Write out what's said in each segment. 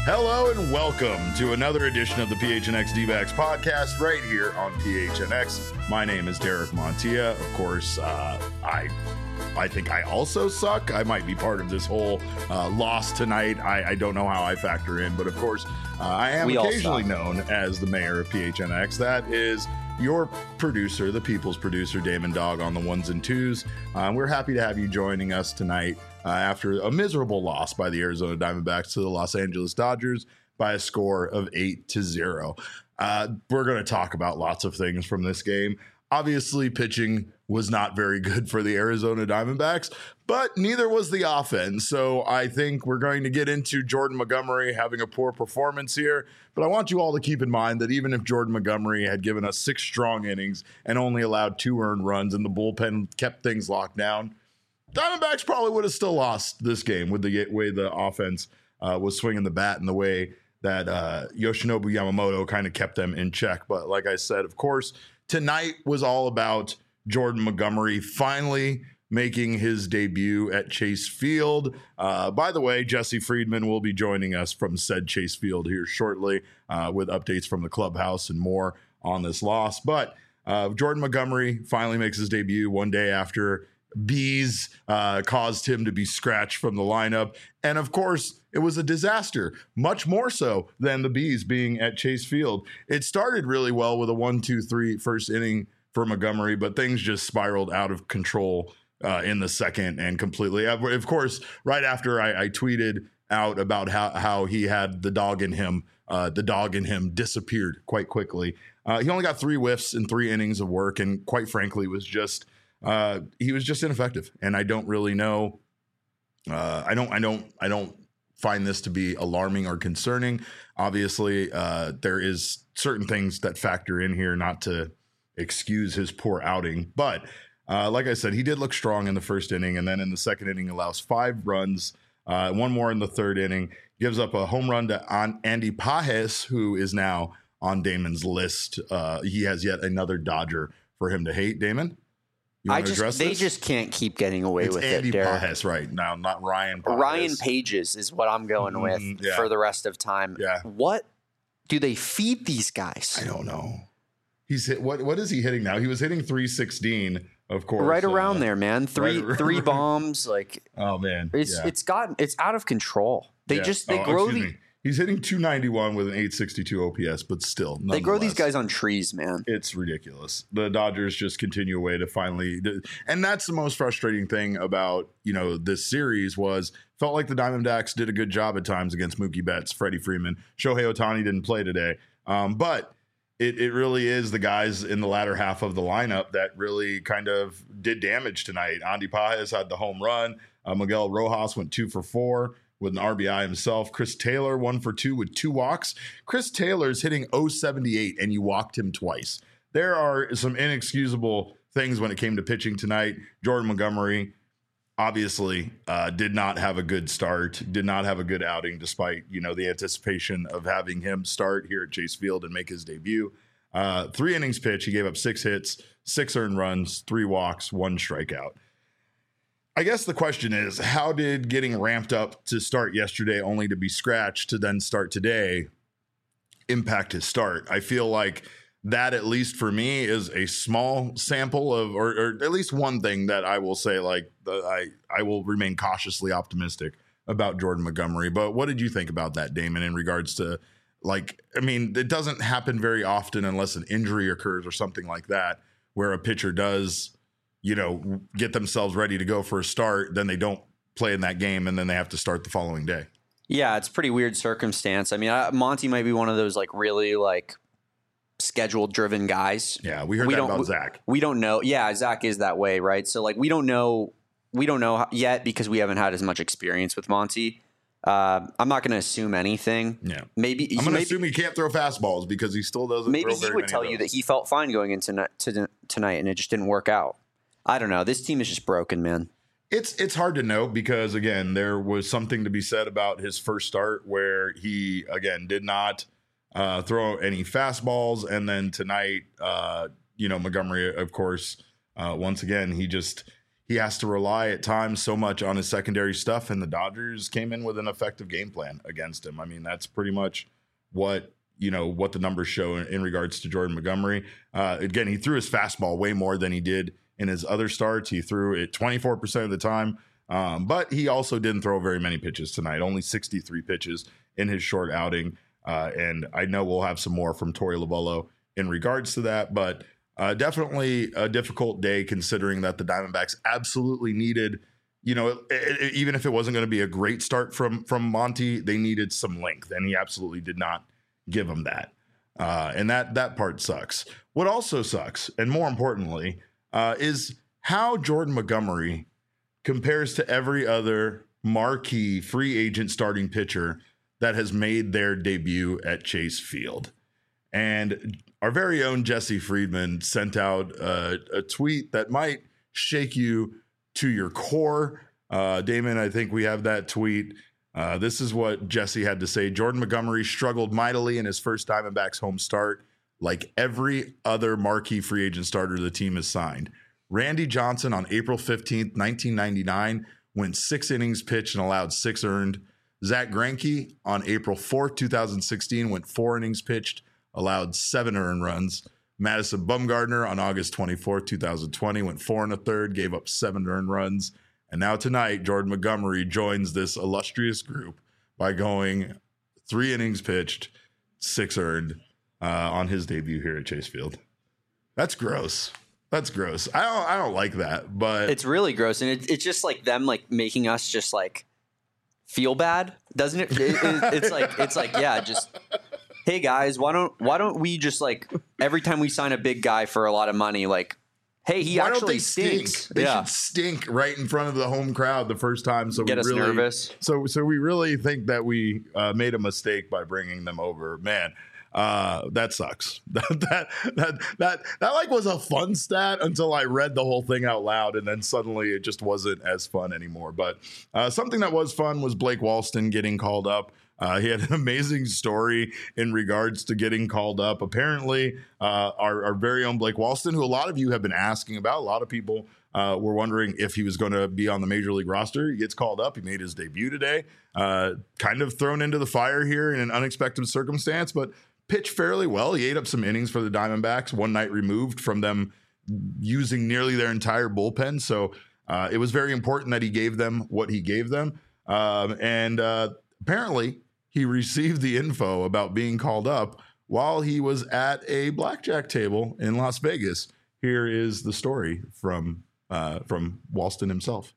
Hello and welcome to another edition of the PHNX D-backs podcast right here on PHNX. My name is Derek Montilla. Of course, I think I also suck. I might be part of this whole loss tonight. I don't know how I factor in, but of course, I am occasionally known as the mayor of PHNX. That is your producer, the people's producer, Damon Dog on the ones and twos. We're happy to have you joining us tonight after a miserable loss by the Arizona Diamondbacks to the Los Angeles Dodgers by a score of 8-0. We're going to talk about lots of things from this game. Obviously, pitching was not very good for the Arizona Diamondbacks, but neither was the offense. So I think we're going to get into Jordan Montgomery having a poor performance here. But I want you all to keep in mind that even if Jordan Montgomery had given us 6 strong innings and only allowed 2 earned runs and the bullpen kept things locked down, Diamondbacks probably would have still lost this game with the way the offense was swinging the bat and the way that Yoshinobu Yamamoto kind of kept them in check. But like I said, of course, tonight was all about Jordan Montgomery finally making his debut at Chase Field. By the way, Jesse Friedman will be joining us from said Chase Field here shortly with updates from the clubhouse and more on this loss. But Jordan Montgomery finally makes his debut one day after bees caused him to be scratched from the lineup. And of course, it was a disaster, much more so than the bees being at Chase Field. It started really well with a 1-2-3 first inning for Montgomery, but things just spiraled out of control in the second and completely. Of course, right after I tweeted out about how he had the dog in him disappeared quite quickly. He only got 3 whiffs in 3 innings of work, and quite frankly, he was just ineffective. And I don't really know. I don't find this to be alarming or concerning. Obviously, there is certain things that factor in here, not to excuse his poor outing. But like I said, he did look strong in the first inning. And then in the second inning, allows 5 runs, 1 more in the third inning, gives up a home run to Andy Pages, who is now on Damon's list. He has yet another Dodger for him to hate. Damon? They just can't keep getting away with Andy it, Derek. Pages right now, not Ryan Pages. Ryan Pages is what I'm going with for the rest of time. Yeah. What do they feed these guys? I don't know. He's hit what is he hitting now? He was hitting 316, of course. Right around there, man. Three bombs. Like, oh man, it's out of control. They grow the. He's hitting 291 with an 862 OPS, but still, they grow these guys on trees, man. It's ridiculous. The Dodgers just continue away to finally, and that's the most frustrating thing about this series was felt like the Diamondbacks did a good job at times against Mookie Betts, Freddie Freeman, Shohei Ohtani didn't play today, but it really is the guys in the latter half of the lineup that really kind of did damage tonight. Andy Pages had the home run. Miguel Rojas went 2 for 4. With an RBI himself. Chris Taylor 1 for 2 with 2 walks. Chris Taylor's hitting 078 and you walked him twice. There are some inexcusable things when it came to pitching tonight. Jordan Montgomery obviously did not have a good start, did not have a good outing despite, the anticipation of having him start here at Chase Field and make his debut. 3 innings pitch, he gave up 6 hits, 6 earned runs, 3 walks, 1 strikeout. I guess the question is, how did getting ramped up to start yesterday only to be scratched to then start today impact his start? I feel like that, at least for me, is a small sample of, or at least one thing that I will say, I will remain cautiously optimistic about Jordan Montgomery. But what did you think about that, Damon, in regards to, it doesn't happen very often unless an injury occurs or something like that, where a pitcher does get themselves ready to go for a start, then they don't play in that game, and then they have to start the following day. Yeah, it's a pretty weird circumstance. I mean, Monty might be one of those really schedule-driven guys. Yeah, we heard that about Zach. We don't know. Yeah, Zach is that way, right? So we don't know yet because we haven't had as much experience with Monty. I'm not going to assume anything. Yeah, I'm going to assume he can't throw fastballs because he still doesn't. Maybe he would tell you that he felt fine going into tonight, and it just didn't work out. I don't know. This team is just broken, man. It's hard to know because, again, there was something to be said about his first start where he, again, did not throw any fastballs. And then tonight, Montgomery, of course, once again, he he has to rely at times so much on his secondary stuff, and the Dodgers came in with an effective game plan against him. I mean, that's pretty much what the numbers show in regards to Jordan Montgomery. Again, he threw his fastball way more than he did in his other starts. He threw it 24% of the time, but he also didn't throw very many pitches tonight, only 63 pitches in his short outing. And I know we'll have some more from Torey Lovullo in regards to that, but definitely a difficult day considering that the Diamondbacks absolutely needed, even if it wasn't going to be a great start from Monty, they needed some length, and he absolutely did not give them that. And that part sucks. What also sucks, and more importantly, is how Jordan Montgomery compares to every other marquee free agent starting pitcher that has made their debut at Chase Field. And our very own Jesse Friedman sent out a tweet that might shake you to your core. Damon, I think we have that tweet. This is what Jesse had to say. Jordan Montgomery struggled mightily in his first Diamondbacks home start, like every other marquee free agent starter the team has signed. Randy Johnson on April 15th, 1999, went 6 innings pitched and allowed 6 earned. Zach Greinke on April 4th, 2016, went 4 innings pitched, allowed 7 earned runs. Madison Bumgarner on August 24th, 2020, went 4 1/3, gave up 7 earned runs. And now tonight, Jordan Montgomery joins this illustrious group by going 3 innings pitched, 6 earned on his debut here at Chase Field. That's gross. That's gross. I don't like that, but it's really gross, and it's just like them like making us just like feel bad, doesn't it? It's like yeah, just hey guys, why don't we just like every time we sign a big guy for a lot of money, like hey, he why actually don't they stinks. Stink? They should stink right in front of the home crowd the first time. So get us nervous. So we really think that we made a mistake by bringing them over. Man, that sucks. that like was a fun stat until I read the whole thing out loud, and then suddenly it just wasn't as fun anymore. But something that was fun was Blake Walston getting called up. He had an amazing story in regards to getting called up. Apparently, our very own Blake Walston, who a lot of you have been asking about, a lot of people were wondering if he was going to be on the Major League roster. He gets called up. He made his debut today. Kind of thrown into the fire here in an unexpected circumstance, but pitched fairly well. He ate up some innings for the Diamondbacks, one night removed from them using nearly their entire bullpen. So it was very important that he gave them what he gave them. And apparently, he received the info about being called up while he was at a blackjack table in Las Vegas. Here is the story from Walston himself.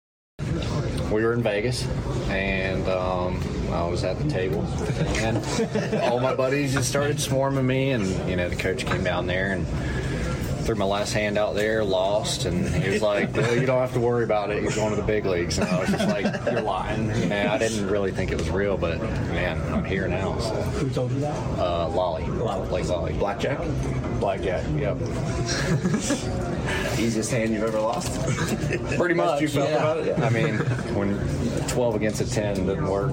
We were in Vegas, and I was at the table, and all my buddies just started swarming me, and the coach came down there and threw my last hand out there, lost, and he was like, well, you don't have to worry about it, you're going to the big leagues. And I was just like, you're lying. I didn't really think it was real, but man, I'm here now. So. Who told you that? Lolly. Blake Lolly. Blackjack? Blackjack, yep. Easiest hand you've ever lost? Pretty much. You felt about it? I mean, when 12 against a 10 doesn't work.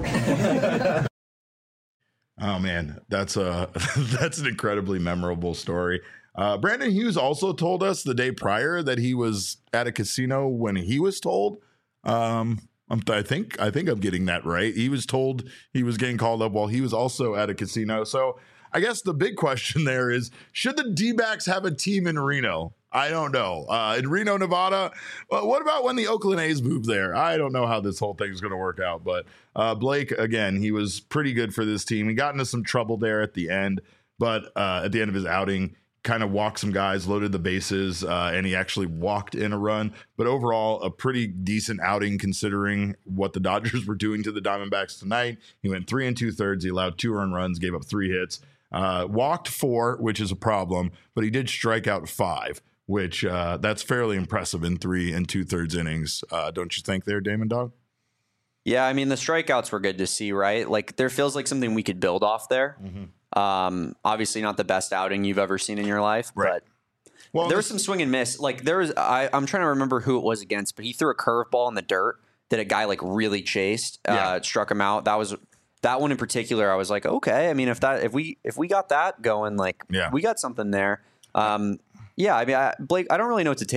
Oh man, that's an incredibly memorable story. Brandon Hughes also told us the day prior that he was at a casino when he was told. I think I'm getting that right. He was told he was getting called up while he was also at a casino. So I guess the big question there is, should the D-backs have a team in Reno? I don't know. In Reno, Nevada, what about when the Oakland A's moved there? I don't know how this whole thing is going to work out. But Blake, again, he was pretty good for this team. He got into some trouble there at the end, but at the end of his outing, kind of walked some guys, loaded the bases, and he actually walked in a run. But overall, a pretty decent outing considering what the Dodgers were doing to the Diamondbacks tonight. He went 3 2/3. He allowed 2 earned runs, gave up 3 hits, walked 4, which is a problem, but he did strike out 5, which that's fairly impressive in 3 2/3 innings. Don't you think there, Damon Dog? Yeah, I mean, the strikeouts were good to see, right? Like, there feels like something we could build off there. Mm-hmm. Obviously not the best outing you've ever seen in your life, right. But there was some swing and miss. Like I'm trying to remember who it was against, but he threw a curveball in the dirt that a guy like really chased, struck him out. That one in particular. I was like, okay. I mean, if we got that going, like we got something there. I mean, Blake, I don't really know what to take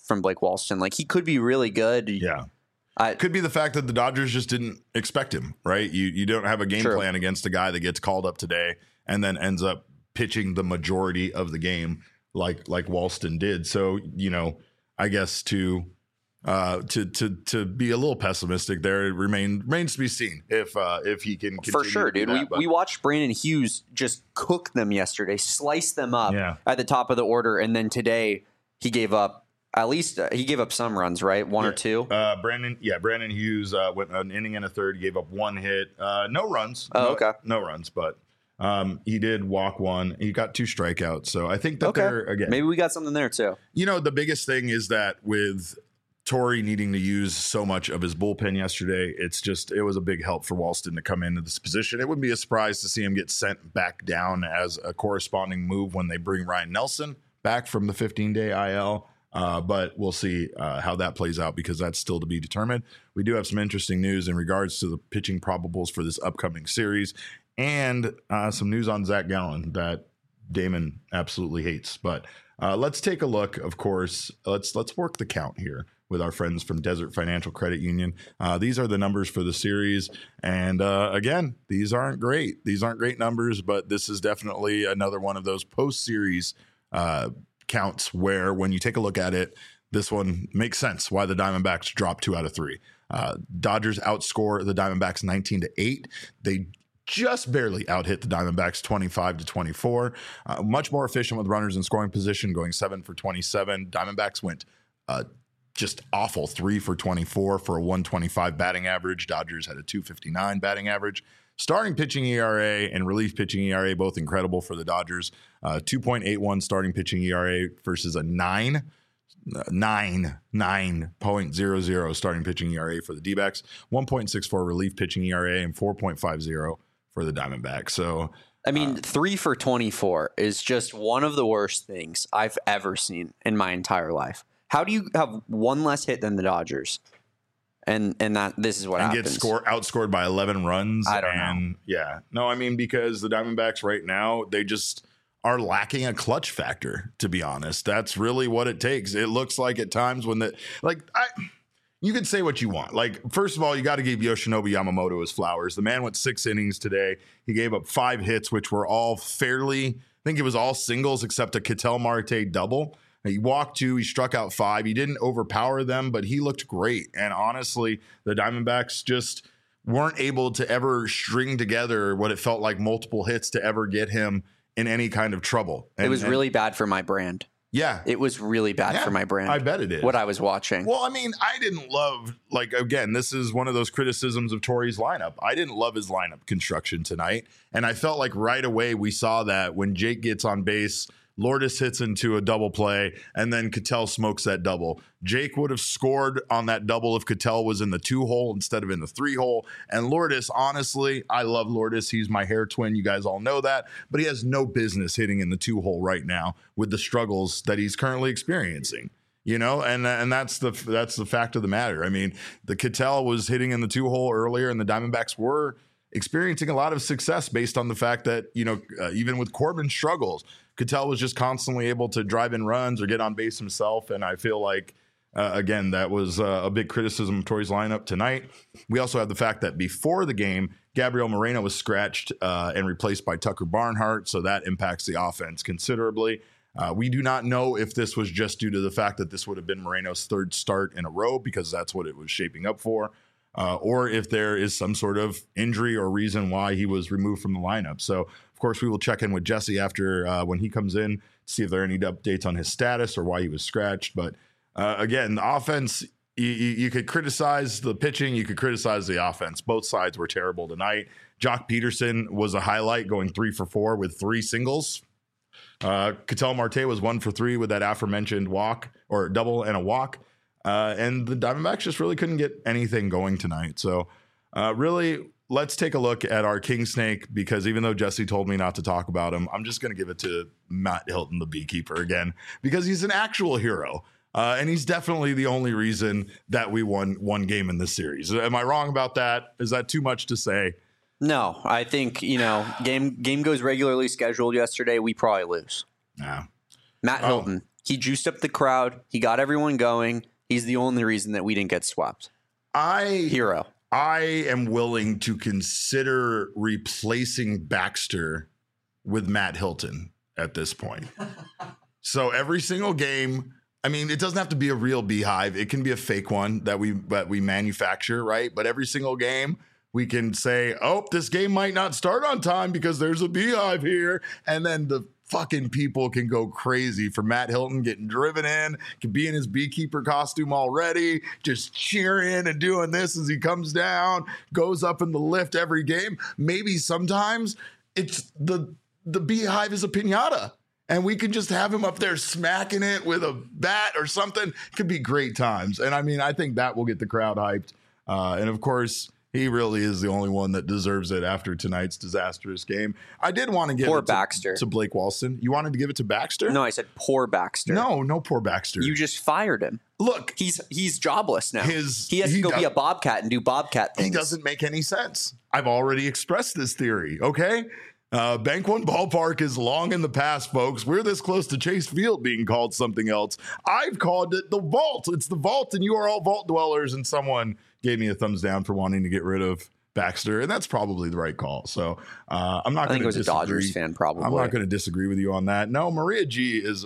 from Blake Walston. Like, he could be really good. Yeah. Could be the fact that the Dodgers just didn't expect him, right? You don't have a game plan against a guy that gets called up today and then ends up pitching the majority of the game like Walston did. So, I guess to be a little pessimistic there, it remains to be seen if he can continue. For sure, dude. We watched Brandon Hughes just cook them yesterday, slice them up at the top of the order, and then today he gave up. At least he gave up some runs, right? One or two. Brandon Hughes went an inning and a third. He gave up one hit, no runs. Okay, no runs, but he did walk one. He got 2 strikeouts. So I think that they're again. Maybe we got something there too. The biggest thing is that with Torey needing to use so much of his bullpen yesterday, it was a big help for Walston to come into this position. It wouldn't be a surprise to see him get sent back down as a corresponding move when they bring Ryan Nelson back from the 15-day IL. But we'll see how that plays out because that's still to be determined. We do have some interesting news in regards to the pitching probables for this upcoming series and some news on Zach Gallen that Damon absolutely hates. But let's take a look, of course. Let's work the count here with our friends from Desert Financial Credit Union. These are the numbers for the series. And again, these aren't great. These aren't great numbers, but this is definitely another one of those post-series counts where when you take a look at it, this one makes sense why the Diamondbacks dropped 2 out of 3. Dodgers outscore the Diamondbacks 19-8. They just barely out-hit the Diamondbacks 25-24. Much more efficient with runners in scoring position, going 7 for 27. Diamondbacks went just awful 3 for 24 for a 125 batting average. Dodgers had a 259 batting average. Starting pitching ERA and relief pitching ERA, both incredible for the Dodgers. 2.81 starting pitching ERA versus a 9.00 starting pitching ERA for the D-backs. 1.64 relief pitching ERA and 4.50 for the Diamondbacks. So, 3 for 24 is just one of the worst things I've ever seen in my entire life. How do you have one less hit than the Dodgers? And that this is what happens. And get outscored by 11 runs. I don't know. Yeah. No, because the Diamondbacks right now, they just are lacking a clutch factor, to be honest. That's really what it takes. It looks like at times when you can say what you want. Like, first of all, you got to give Yoshinobu Yamamoto his flowers. The man went 6 innings today. He gave up 5 hits, which were all I think it was all singles except a Ketel Marte double. He walked 2, he struck out 5. He didn't overpower them, but he looked great. And honestly, the Diamondbacks just weren't able to ever string together what it felt like multiple hits to ever get him in any kind of trouble. It was really bad for my brand. Yeah. It was really bad for my brand. I bet it is. What I was watching. Well, I didn't love, again, this is one of those criticisms of Torey's lineup. I didn't love his lineup construction tonight. And I felt like right away we saw that when Jake gets on base, Lourdes hits into a double play, and then Ketel smokes that double. Jake would have scored on that double if Ketel was in the 2-hole instead of in the 3-hole. And Lourdes, honestly, I love Lourdes. He's my hair twin. You guys all know that. But he has no business hitting in the 2-hole right now with the struggles that he's currently experiencing. And that's the fact of the matter. The Ketel was hitting in the 2-hole earlier, and the Diamondbacks were experiencing a lot of success based on the fact that, even with Corbin's struggles, Ketel was just constantly able to drive in runs or get on base himself. And I feel like, again, that was a big criticism of Torey's lineup tonight. We also have the fact that before the game, Gabriel Moreno was scratched and replaced by Tucker Barnhart. So that impacts the offense considerably. We do not know if this was just due to the fact that this would have been Moreno's 3rd start in a row, because that's what it was shaping up for. Or if there is some sort of injury or reason why he was removed from the lineup. So, of course, we will check in with Jesse after when he comes in to see if there are any updates on his status or why he was scratched. But again, the offense, you could criticize the pitching, you could criticize the offense. Both sides were terrible tonight. Jock Peterson was a highlight, going 3 for 4 with 3 singles. Ketel Marte was 1 for 3 with that aforementioned walk or double and a walk. And the Diamondbacks just really couldn't get anything going tonight. So really, let's take a look at our King Snake, because even though Jesse told me not to talk about him, I'm just going to give it to Matt Hilton, the beekeeper, again, because he's an actual hero. And he's definitely the only reason that we won one game in this series. Am I wrong about that? Is that too much to say? No, I think, game goes regularly scheduled yesterday. We probably lose. Yeah. Matt Hilton, He juiced up the crowd. He got everyone going. He's the only reason that we didn't get swept. Hero. I am willing to consider replacing Baxter with Matt Hilton at this point. So every single game, I mean, it doesn't have to be a real beehive. It can be a fake one that we manufacture, right? But every single game, we can say, oh, this game might not start on time because there's a beehive here. And then the fucking people can go crazy for Matt Hilton getting driven in, can be in his beekeeper costume already, just cheering and doing this as he comes down, goes up in the lift every game. Maybe sometimes it's the beehive is a piñata. And we can just have him up there smacking it with a bat or something. It could be great times. And I mean, I think that will get the crowd hyped. And of course, he really is the only one that deserves it after tonight's disastrous game. I did want to give it Baxter. To Blake Walston. You wanted to give it to Baxter? No, I said poor Baxter. No poor Baxter. You just fired him. Look, he's jobless now. He has to go be a Bobcat and do Bobcat things. He doesn't make any sense. I've already expressed this theory, okay? Bank One Ballpark is long in the past, folks. We're this close to Chase Field being called something else. I've called it the Vault. It's the Vault, and you are all Vault dwellers, and someone gave me a thumbs down for wanting to get rid of Baxter, and that's probably the right call. So I'm not going to disagree. I think it was a Dodgers fan, probably. I'm not going to disagree with you on that. No, Maria G is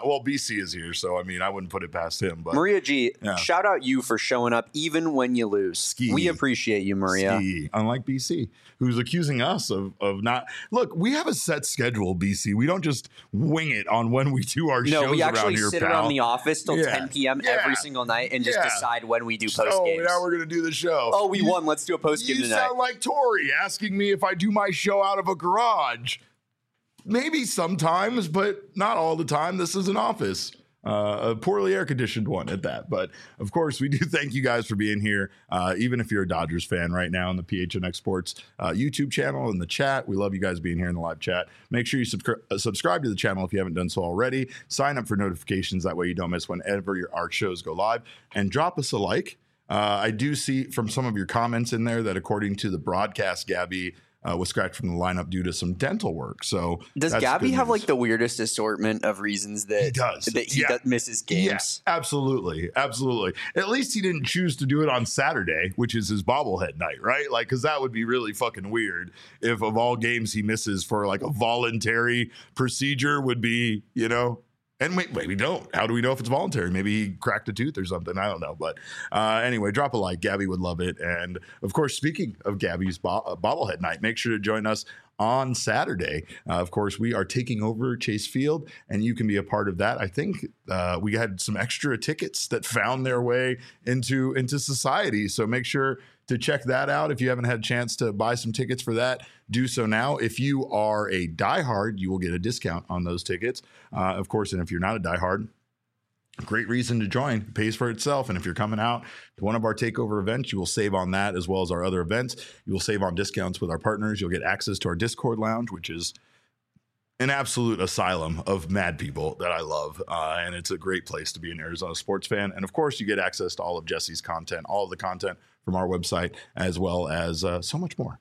BC is here, so I mean, I wouldn't put it past him. But Maria G, shout out you for showing up even when you lose. Ski. We appreciate you, Maria. Ski. Unlike BC, who's accusing us of not. Look, we have a set schedule, BC. We don't just wing it on when we do our shows. No, we actually sit around the office till 10 p.m. every single night and just decide when we do post games. Now we're going to do the show. Oh, we won. Let's do a post game tonight. You sound like Tori asking me if I do my show out of a garage. Maybe sometimes, but not all the time. This is an office. A poorly air-conditioned one at that. But, of course, we do thank you guys for being here, even if you're a Dodgers fan right now on the PHNX Sports YouTube channel in the chat. We love you guys being here in the live chat. Make sure you subscribe to the channel if you haven't done so already. Sign up for notifications. That way you don't miss whenever our shows go live. And drop us a like. I do see from some of your comments in there that according to the broadcast, Gabby was scratched from the lineup due to some dental work. So does Gabby have like the weirdest assortment of reasons that he misses games? Yes, absolutely. At least he didn't choose to do it on Saturday, which is his bobblehead night, right? Like, because that would be really fucking weird if of all games he misses for like a voluntary procedure would be, And wait, we don't. How do we know if it's voluntary? Maybe he cracked a tooth or something. I don't know. But anyway, drop a like. Gabby would love it. And, of course, speaking of Gabby's bobblehead night, make sure to join us on Saturday. Of course, we are taking over Chase Field, and you can be a part of that. I think we had some extra tickets that found their way into society. So make sure to check that out. If you haven't had a chance to buy some tickets for that, do so now. If you are a diehard, you will get a discount on those tickets. Of course, and if you're not a diehard, great reason to join. It pays for itself. And if you're coming out to one of our takeover events, you will save on that as well as our other events. You will save on discounts with our partners. You'll get access to our Discord lounge, which is an absolute asylum of mad people that I love. And it's a great place to be an Arizona sports fan. And of course, you get access to all of Jesse's content, all of the content from our website, as well as so much more.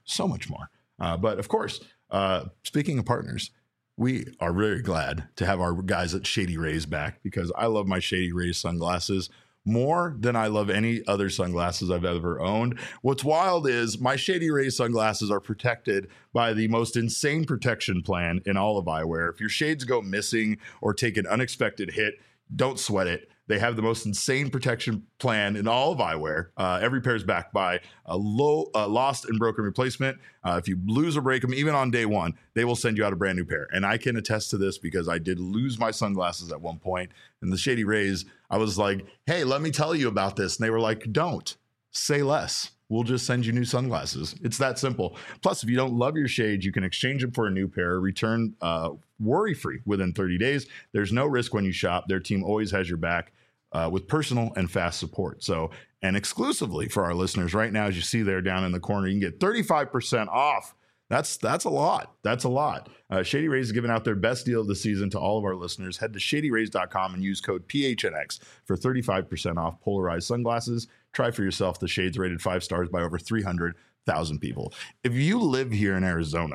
But of course, speaking of partners, we are very glad to have our guys at Shady Rays back because I love my Shady Rays sunglasses more than I love any other sunglasses I've ever owned. What's wild is my Shady Rays sunglasses are protected by the most insane protection plan in all of eyewear. If your shades go missing or take an unexpected hit, don't sweat it. They have the most insane protection plan in all of eyewear. Every pair is backed by a lost and broken replacement. If you lose or break them, even on day one, they will send you out a brand new pair. And I can attest to this because I did lose my sunglasses at one point. And the Shady Rays, I was like, hey, let me tell you about this. And they were like, don't. Say less. We'll just send you new sunglasses. It's that simple. Plus, if you don't love your shades, you can exchange them for a new pair, return worry-free within 30 days. There's no risk when you shop. Their team always has your back with personal and fast support. So, and exclusively for our listeners right now, as you see there down in the corner, you can get 35% off. That's a lot. That's a lot. Shady Rays is giving out their best deal of the season to all of our listeners. Head to shadyrays.com and use code PHNX for 35% off polarized sunglasses. Try for yourself the shades rated 5 stars by over 300,000 people. If you live here in Arizona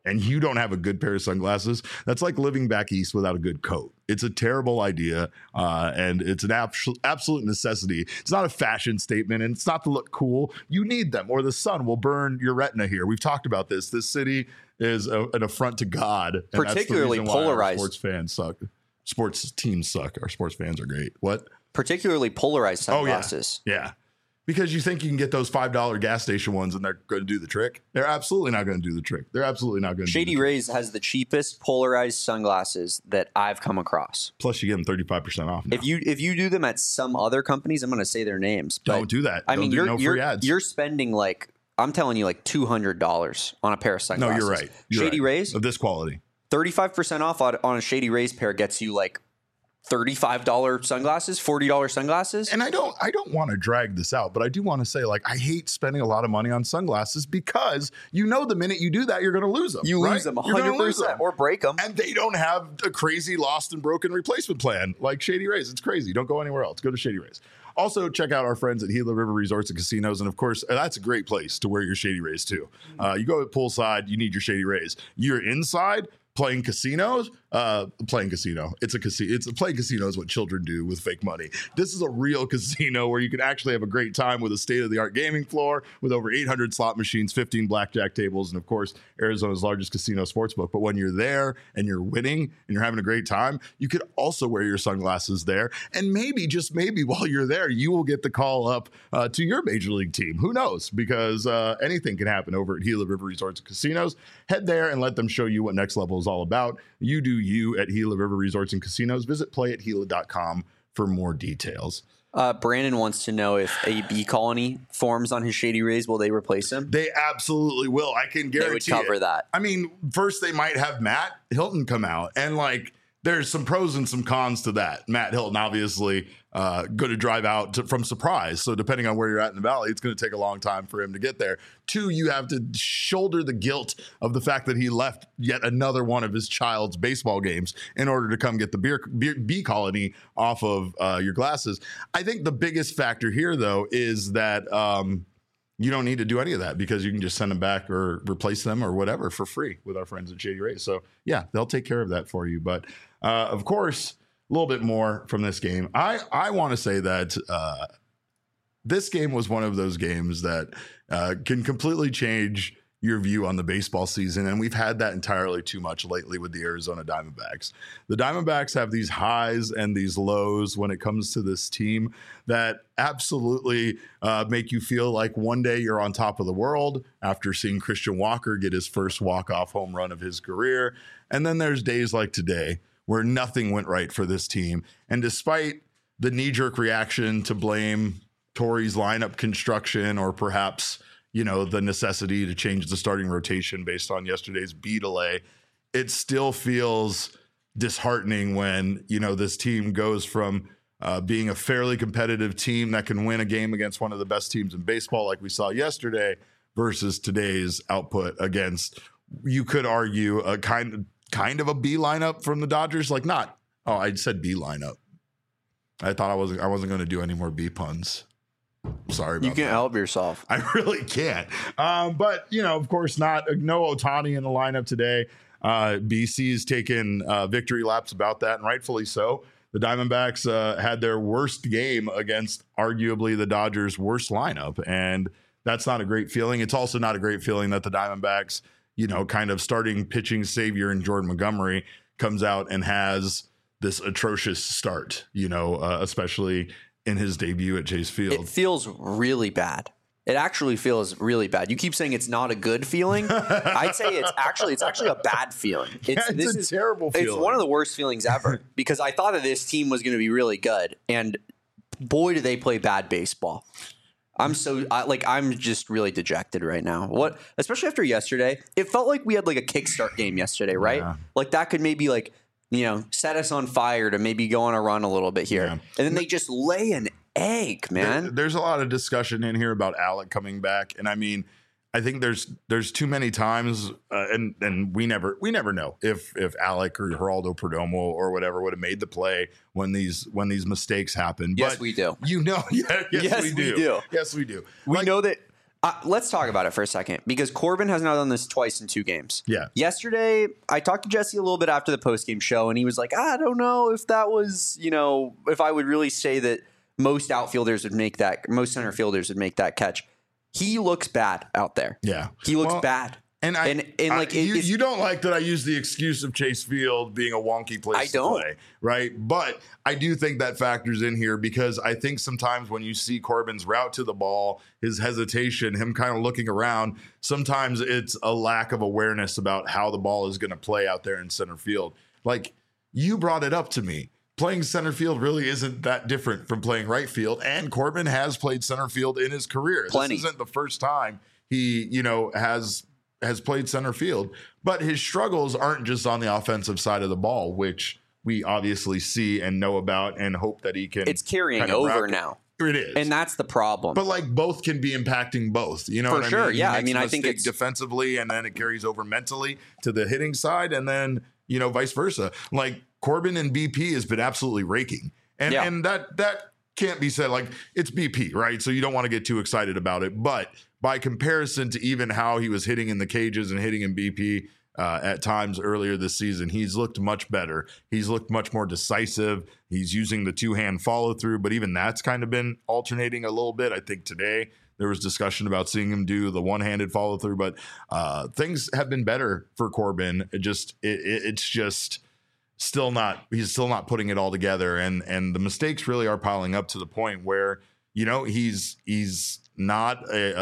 and you don't have a good pair of sunglasses, that's like living back east without a good coat. It's a terrible idea, and it's an absolute necessity. It's not a fashion statement, and it's not to look cool. You need them, or the sun will burn your retina here. We've talked about this. This city is an affront to God. And particularly that's the reason why polarized. our sports fans suck. Sports teams suck. Our sports fans are great. What? Particularly polarized sunglasses. Oh, yeah. Because you think you can get those $5 gas station ones and they're going to do the trick. They're absolutely not going to do the trick. They're absolutely not going to. Shady Rays has the cheapest polarized sunglasses that I've come across. Plus, you get them 35% off now. If you do them at some other companies, I'm going to say their names. But don't do that. I mean, free ads. You're spending like, I'm telling you, like $200 on a pair of sunglasses. No, you're right. Shady Rays of this quality. 35% off on a Shady Rays pair gets you like $35 sunglasses, $40 sunglasses. And I don't want to drag this out, but I do want to say, like, I hate spending a lot of money on sunglasses because the minute you do that, you're going to lose them. You lose them 100% or break them. And they don't have a crazy lost and broken replacement plan like Shady Rays. It's crazy. Don't go anywhere else. Go to Shady Rays. Also, check out our friends at Gila River Resorts and Casinos. And of course, that's a great place to wear your Shady Rays too. You go poolside, you need your Shady Rays. You're inside playing casinos, playing casino. Playing casino is what children do with fake money. This is a real casino where you can actually have a great time with a state-of-the-art gaming floor with over 800 slot machines, 15 blackjack tables, and of course, Arizona's largest casino sportsbook. But when you're there and you're winning and you're having a great time, you could also wear your sunglasses there. And maybe, just maybe, while you're there, you will get the call up to your major league team. Who knows? Because anything can happen over at Gila River Resorts and Casinos. Head there and let them show you what next level is all about. You do you at Gila River Resorts and Casinos. Visit playathila.com for more details. Brandon wants to know if a bee colony forms on his Shady Rays, will they replace him? They absolutely will. I can guarantee they would cover that. I mean, first they might have Matt Hilton come out, and like there's some pros and some cons to that. Matt Hilton obviously going to drive out from Surprise. So depending on where you're at in the valley, it's going to take a long time for him to get there. 2, you have to shoulder the guilt of the fact that he left yet another one of his child's baseball games in order to come get the bee colony off of your glasses. I think the biggest factor here, though, is that you don't need to do any of that because you can just send them back or replace them or whatever for free with our friends at Shady Rays. So, yeah, they'll take care of that for you. But, of course, a little bit more from this game. I want to say that this game was one of those games that can completely change your view on the baseball season. And we've had that entirely too much lately with the Arizona Diamondbacks. The Diamondbacks have these highs and these lows when it comes to this team that absolutely make you feel like one day you're on top of the world after seeing Christian Walker get his first walk-off home run of his career. And then there's days like today where nothing went right for this team. And despite the knee-jerk reaction to blame Torey's lineup construction or perhaps, the necessity to change the starting rotation based on yesterday's B delay, it still feels disheartening when, this team goes from being a fairly competitive team that can win a game against one of the best teams in baseball like we saw yesterday versus today's output against, you could argue, a kind of a B lineup from the Dodgers. I said B lineup. I thought I wasn't going to do any more B puns. Sorry about that. You can't help yourself. I really can't. But, of course, no Ohtani in the lineup today. BC's taken victory laps about that, and rightfully so. The Diamondbacks had their worst game against arguably the Dodgers' worst lineup, and that's not a great feeling. It's also not a great feeling that the Diamondbacks, kind of starting pitching savior in Jordan Montgomery comes out and has this atrocious start, especially in his debut at Chase Field. It feels really bad. It actually feels really bad. You keep saying it's not a good feeling. I'd say it's actually a bad feeling. It's a terrible feeling. It's one of the worst feelings ever because I thought that this team was going to be really good, and boy, do they play bad baseball. I'm just really dejected right now. Especially after yesterday, it felt like we had like a kickstart game yesterday, right? Yeah. Like that could maybe set us on fire to maybe go on a run a little bit here. Yeah. And then they just lay an egg, man. There's a lot of discussion in here about Alec coming back. And I mean, I think there's too many times, and we never know if Alec or Geraldo Perdomo or whatever would have made the play when these mistakes happen. Yes, but we do. Yes, we do. Yes, we do. We know that Let's talk about it for a second, because Corbin has now done this twice in 2 games. Yeah. Yesterday, I talked to Jesse a little bit after the postgame show, and he was like, I don't know if that was, if I would really say that most outfielders would make that, most center fielders would make that catch. He looks bad out there. Yeah. He looks bad. And you don't like that I use the excuse of Chase Field being a wonky place to play, right? But I do think that factors in here, because I think sometimes when you see Corbin's route to the ball, his hesitation, him kind of looking around, sometimes it's a lack of awareness about how the ball is going to play out there in center field. Like, you brought it up to me. Playing center field really isn't that different from playing right field, and Corbin has played center field in his career. Plenty. This isn't the first time he, has played center field, but his struggles aren't just on the offensive side of the ball, which we obviously see and know about and hope that he can. It's carrying over now. It is. And that's the problem. But like, both can be impacting both, you know For what sure. I mean? Yeah. I mean, I think it's defensively, and then it carries over mentally to the hitting side, and then, vice versa. Like, Corbin and BP has been absolutely raking. And that can't be said. Like, it's BP, right? So you don't want to get too excited about it, but by comparison to even how he was hitting in the cages and hitting in BP at times earlier this season, he's looked much better. He's looked much more decisive. He's using the 2-hand follow through, but even that's kind of been alternating a little bit. I think today there was discussion about seeing him do the 1-handed follow through, but things have been better for Corbin. It's just still not, he's still not putting it all together. And the mistakes really are piling up to the point where, he's not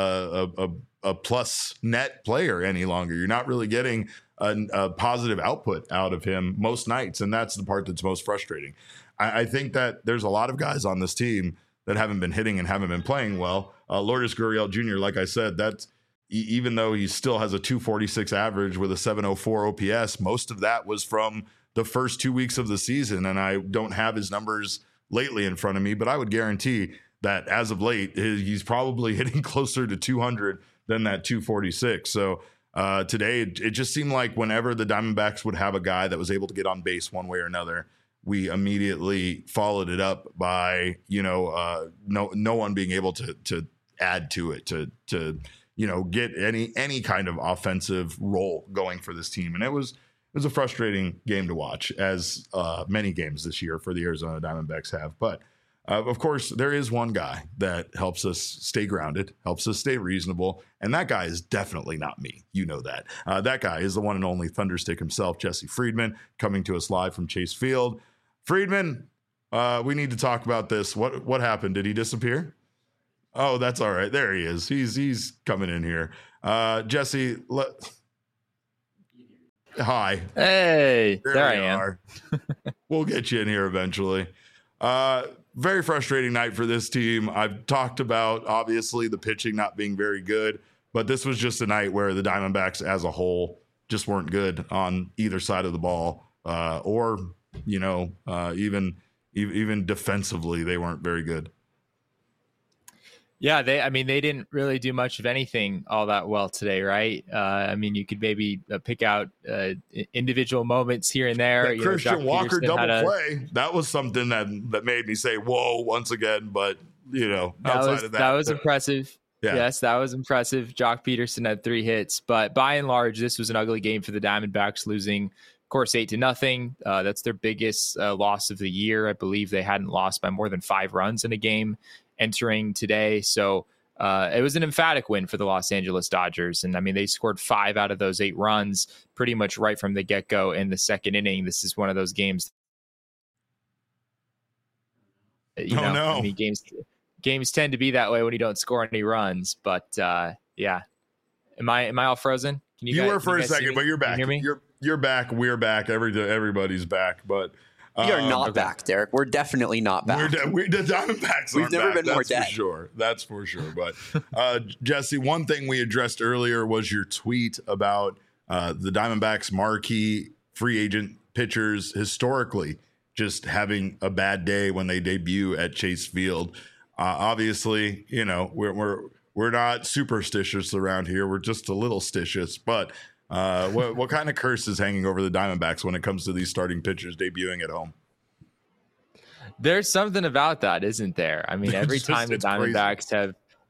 a plus net player any longer. You're not really getting a positive output out of him most nights, and that's the part that's most frustrating. I think that there's a lot of guys on this team that haven't been hitting and haven't been playing well. Lourdes Gurriel Jr., like I said, that's even though he still has a 246 average with a 704 OPS, most of that was from the first 2 weeks of the season, and I don't have his numbers lately in front of me, but I would guarantee that as of late, he's probably hitting closer to 200 than that 246. So today, it just seemed like whenever the Diamondbacks would have a guy that was able to get on base one way or another, we immediately followed it up by, no one being able to add to it, to get any kind of offensive role going for this team. And it was a frustrating game to watch, as many games this year for the Arizona Diamondbacks have. But of course, there is one guy that helps us stay grounded, helps us stay reasonable, and that guy is definitely not me. You know that. That guy is the one and only Thunderstick himself, Jesse Friedman, coming to us live from Chase Field. Friedman, we need to talk about this. What happened? Did he disappear? Oh, that's all right. There he is. He's coming in here. Jesse, hi. Hey, there I am. We'll get you in here eventually. Very frustrating night for this team. I've talked about, obviously, the pitching not being very good, but this was just a night where the Diamondbacks as a whole just weren't good on either side of the ball, or even defensively, they weren't very good. Yeah, they didn't really do much of anything all that well today, right? You could maybe pick out individual moments here and there. That Christian Walker double play, that was something that made me say, whoa, once again. But, outside of that. That was impressive. Yeah. Yes, that was impressive. Jock Peterson had 3 hits. But by and large, this was an ugly game for the Diamondbacks, losing, of course, 8-0. That's their biggest loss of the year. I believe they hadn't lost by more than 5 runs in a game entering today. So it was an emphatic win for the Los Angeles Dodgers. And they scored 5 out of those 8 runs pretty much right from the get-go in the second inning. This is one of those games. Games tend to be that way when you don't score any runs. But yeah. Am I all frozen? Can you were for a second, but you're back. Can you hear me? You're back. We're back. Everybody's back. But we are not back, Derek. We're definitely not back. The Diamondbacks We've never been more dead. That's for sure. That's for sure. But Jesse, one thing we addressed earlier was your tweet about the Diamondbacks marquee free agent pitchers historically just having a bad day when they debut at Chase Field. Obviously, we're not superstitious around here. We're just a little stitious, but what kind of curse is hanging over the Diamondbacks when it comes to these starting pitchers debuting at home? There's something about that, isn't there? Every time the Diamondbacks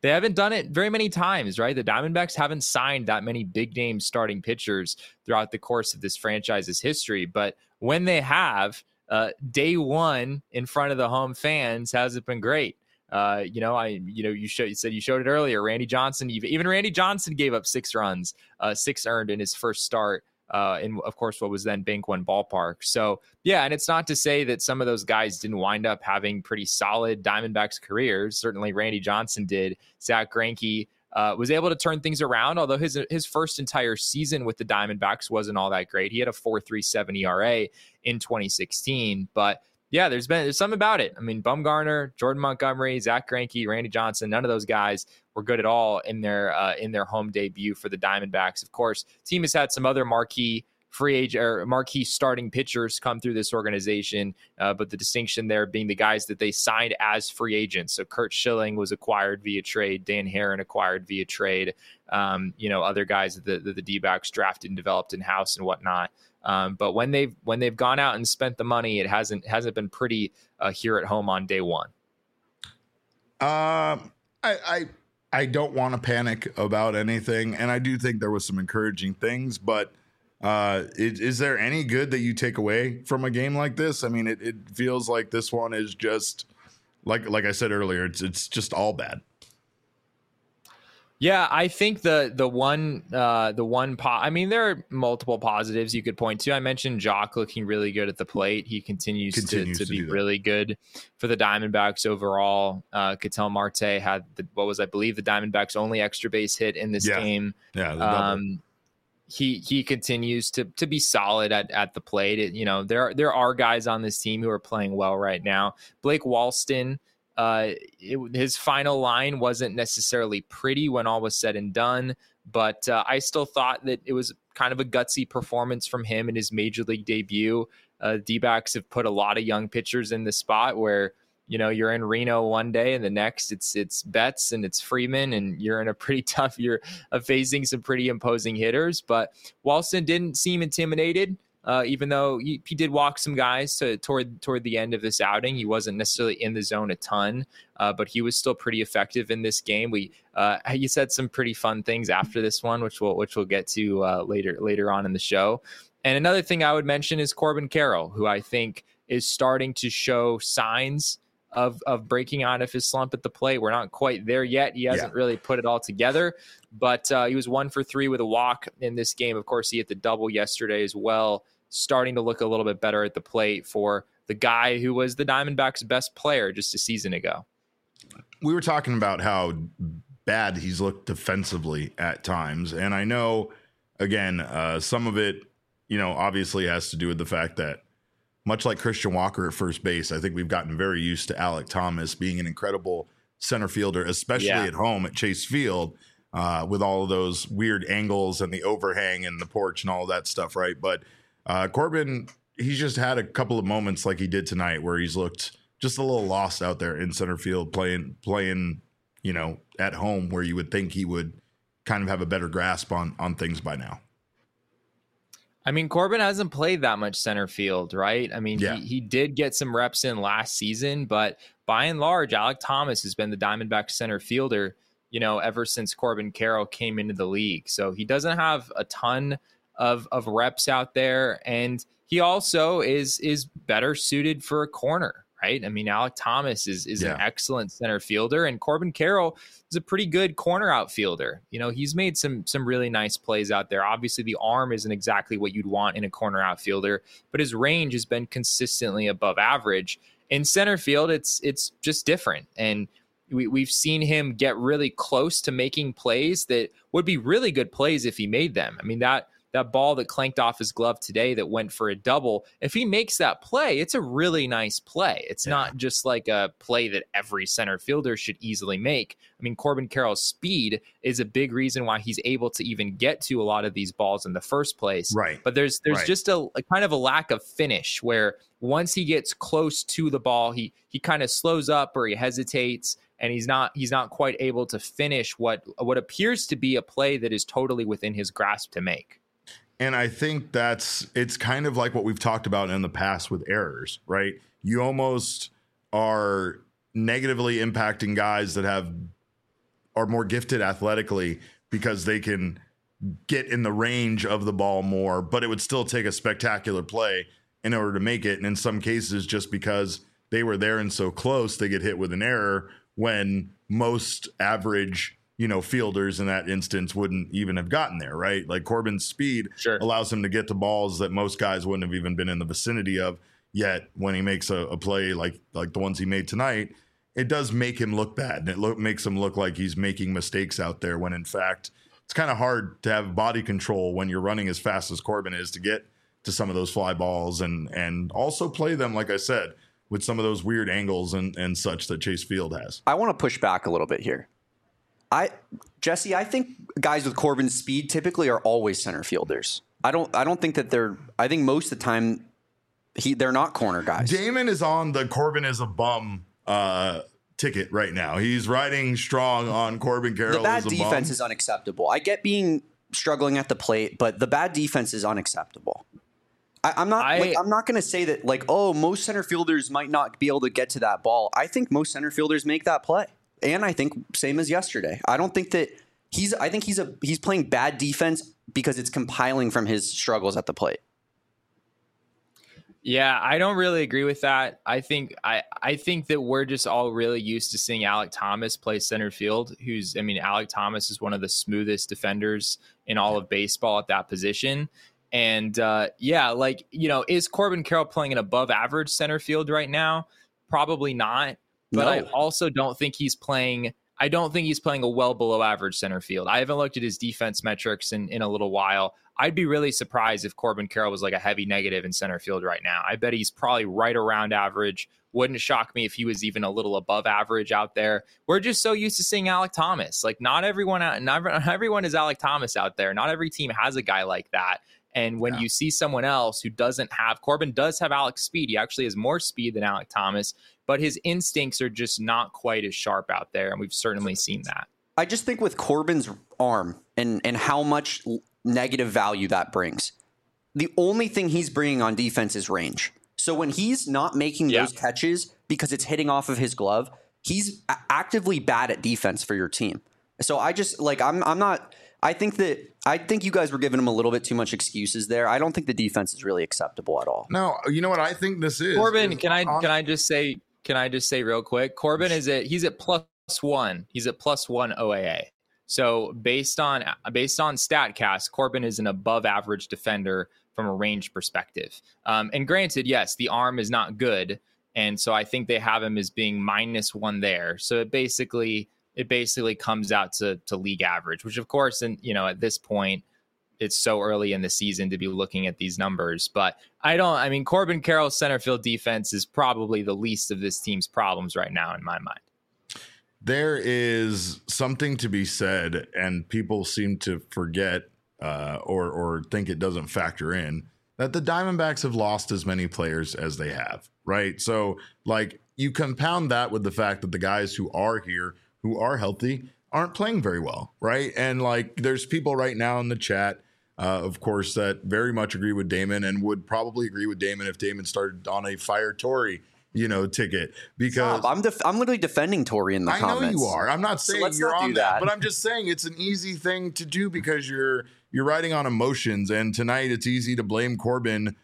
they haven't done it very many times, right? The Diamondbacks haven't signed that many big name starting pitchers throughout the course of this franchise's history. But when they have, day one in front of the home fans hasn't been great. You said you showed it earlier. Randy Johnson, even Randy Johnson gave up 6 runs, 6 earned in his first start. In, of course, what was then Bank One Ballpark. So, yeah, and it's not to say that some of those guys didn't wind up having pretty solid Diamondbacks careers. Certainly Randy Johnson did. Zach Greinke was able to turn things around, although his first entire season with the Diamondbacks wasn't all that great. He had a 4.37 ERA in 2016, but yeah, there's something about it. I mean, Bumgarner, Jordan Montgomery, Zach Greinke, Randy Johnson, none of those guys were good at all in their home debut for the Diamondbacks. Of course, the team has had some other marquee starting pitchers come through this organization, but the distinction there being the guys that they signed as free agents. So Curt Schilling was acquired via trade, Dan Herron acquired via trade, other guys that the D-backs drafted and developed in-house and whatnot. But when they've gone out and spent the money, it hasn't been pretty here at home on day one. I don't want to panic about anything, and I do think there was some encouraging things, but is there any good that you take away from a game like this? I mean, it feels like this one is just like I said earlier, it's just all bad. Yeah, I think there are multiple positives you could point to. I mentioned Jock looking really good at the plate. He continues to be really good for the Diamondbacks overall. Ketel Marte had I believe the Diamondbacks' only extra base hit in this game. Yeah. He continues to be solid at the plate. There are guys on this team who are playing well right now. Blake Walston. His final line wasn't necessarily pretty when all was said and done, but I still thought that it was kind of a gutsy performance from him in his major league debut. D-backs have put a lot of young pitchers in the spot where, you're in Reno one day and the next it's Betts and it's Freeman, and you're in a pretty tough, you're facing some pretty imposing hitters. But Walston didn't seem intimidated. Even though he did walk some guys toward the end of this outing. He wasn't necessarily in the zone a ton, but he was still pretty effective in this game. He said some pretty fun things after this one, which we'll get to later on in the show. And another thing I would mention is Corbin Carroll, who I think is starting to show signs of breaking out of his slump at the plate. We're not quite there yet. He hasn't really put it all together, but he was 1 for 3 with a walk in this game. Of course, he hit the double yesterday as well. Starting to look a little bit better at the plate for the guy who was the Diamondbacks' best player just a season ago. We were talking about how bad he's looked defensively at times. And I know, again, some of it, obviously has to do with the fact that much like Christian Walker at first base, I think we've gotten very used to Alek Thomas being an incredible center fielder, especially at home at Chase Field, with all of those weird angles and the overhang and the porch and all of that stuff, right? But Corbin, he's just had a couple of moments like he did tonight where he's looked just a little lost out there in center field playing, at home, where you would think he would kind of have a better grasp on things by now. I mean, Corbin hasn't played that much center field, right? I mean, he did get some reps in last season, but by and large, Alek Thomas has been the Diamondbacks center fielder, ever since Corbin Carroll came into the league. So he doesn't have a ton of reps out there, and he also is better suited for a corner, right? I mean, Alek Thomas is an excellent center fielder, and Corbin Carroll is a pretty good corner outfielder. He's made some really nice plays out there. Obviously, the arm isn't exactly what you'd want in a corner outfielder, but his range has been consistently above average. In center field, it's just different, and we've seen him get really close to making plays that would be really good plays if he made them. I mean, that ball that clanked off his glove today that went for a double, if he makes that play, it's a really nice play. It's not just like a play that every center fielder should easily make. I mean, Corbin Carroll's speed is a big reason why he's able to even get to a lot of these balls in the first place. Right. But there's just a kind of a lack of finish where once he gets close to the ball, he kind of slows up or he hesitates, and he's not quite able to finish what appears to be a play that is totally within his grasp to make. And I think it's kind of like what we've talked about in the past with errors, right? You almost are negatively impacting guys that have are more gifted athletically because they can get in the range of the ball more, but it would still take a spectacular play in order to make it. And in some cases, just because they were there and so close, they get hit with an error when most average, fielders in that instance wouldn't even have gotten there, right? Like Corbin's speed allows him to get to balls that most guys wouldn't have even been in the vicinity of. Yet when he makes a play like the ones he made tonight, it does make him look bad. And it makes him look like he's making mistakes out there when in fact it's kind of hard to have body control when you're running as fast as Corbin is to get to some of those fly balls and also play them, like I said, with some of those weird angles and such that Chase Field has. I want to push back a little bit here. Jesse, I think guys with Corbin's speed typically are always center fielders. I don't think that I think most of the time they're not corner guys. Damon is on the Corbin is a bum ticket right now. He's riding strong on Corbin Carroll. The bad defense is unacceptable. I get being struggling at the plate, but the bad defense is unacceptable. I'm not going to say that most center fielders might not be able to get to that ball. I think most center fielders make that play. And I think same as yesterday. I don't think that I think he's playing bad defense because it's compiling from his struggles at the plate. Yeah, I don't really agree with that. I think that we're just all really used to seeing Alek Thomas play center field. Alek Thomas is one of the smoothest defenders in all of baseball at that position. And is Corbin Carroll playing an above average center field right now? Probably not. But no. I also don't think he's playing a well below average center field. I haven't looked at his defense metrics in a little while. I'd be really surprised if Corbin Carroll was like a heavy negative in center field right now. I bet he's probably right around average. Wouldn't shock me if he was even a little above average out there. We're just so used to seeing Alek Thomas. Like not everyone is Alek Thomas out there. Not every team has a guy like that. And when you see someone else who doesn't have, Corbin does have Alek's speed. He actually has more speed than Alek Thomas, but his instincts are just not quite as sharp out there. And we've certainly seen that. I just think with Corbin's arm and how much negative value that brings, the only thing he's bringing on defense is range. So when he's not making those catches because it's hitting off of his glove, he's actively bad at defense for your team. So I just I think you guys were giving him a little bit too much excuses there. I don't think the defense is really acceptable at all. No, you know what I think this is? Corbin, can I just say real quick? Corbin he's at +1. He's at +1 OAA. So based on StatCast, Corbin is an above average defender from a range perspective. And granted, yes, the arm is not good, and so I think they have him as being -1 there. So it basically comes out to league average, which of course, and at this point, it's so early in the season to be looking at these numbers. But Corbin Carroll's center field defense is probably the least of this team's problems right now in my mind. There is something to be said, and people seem to forget or think it doesn't factor in, that the Diamondbacks have lost as many players as they have, right? So, you compound that with the fact that the guys who are here, who are healthy, aren't playing very well, right? And there's people right now in the chat, of course, that very much agree with Damon and would probably agree with Damon if Damon started on a Fire Torrey, ticket. Because I'm literally defending Torrey in the comments. I know you are. I'm not saying you're on that, but I'm just saying it's an easy thing to do because you're riding on emotions. And tonight it's easy to blame Corbin.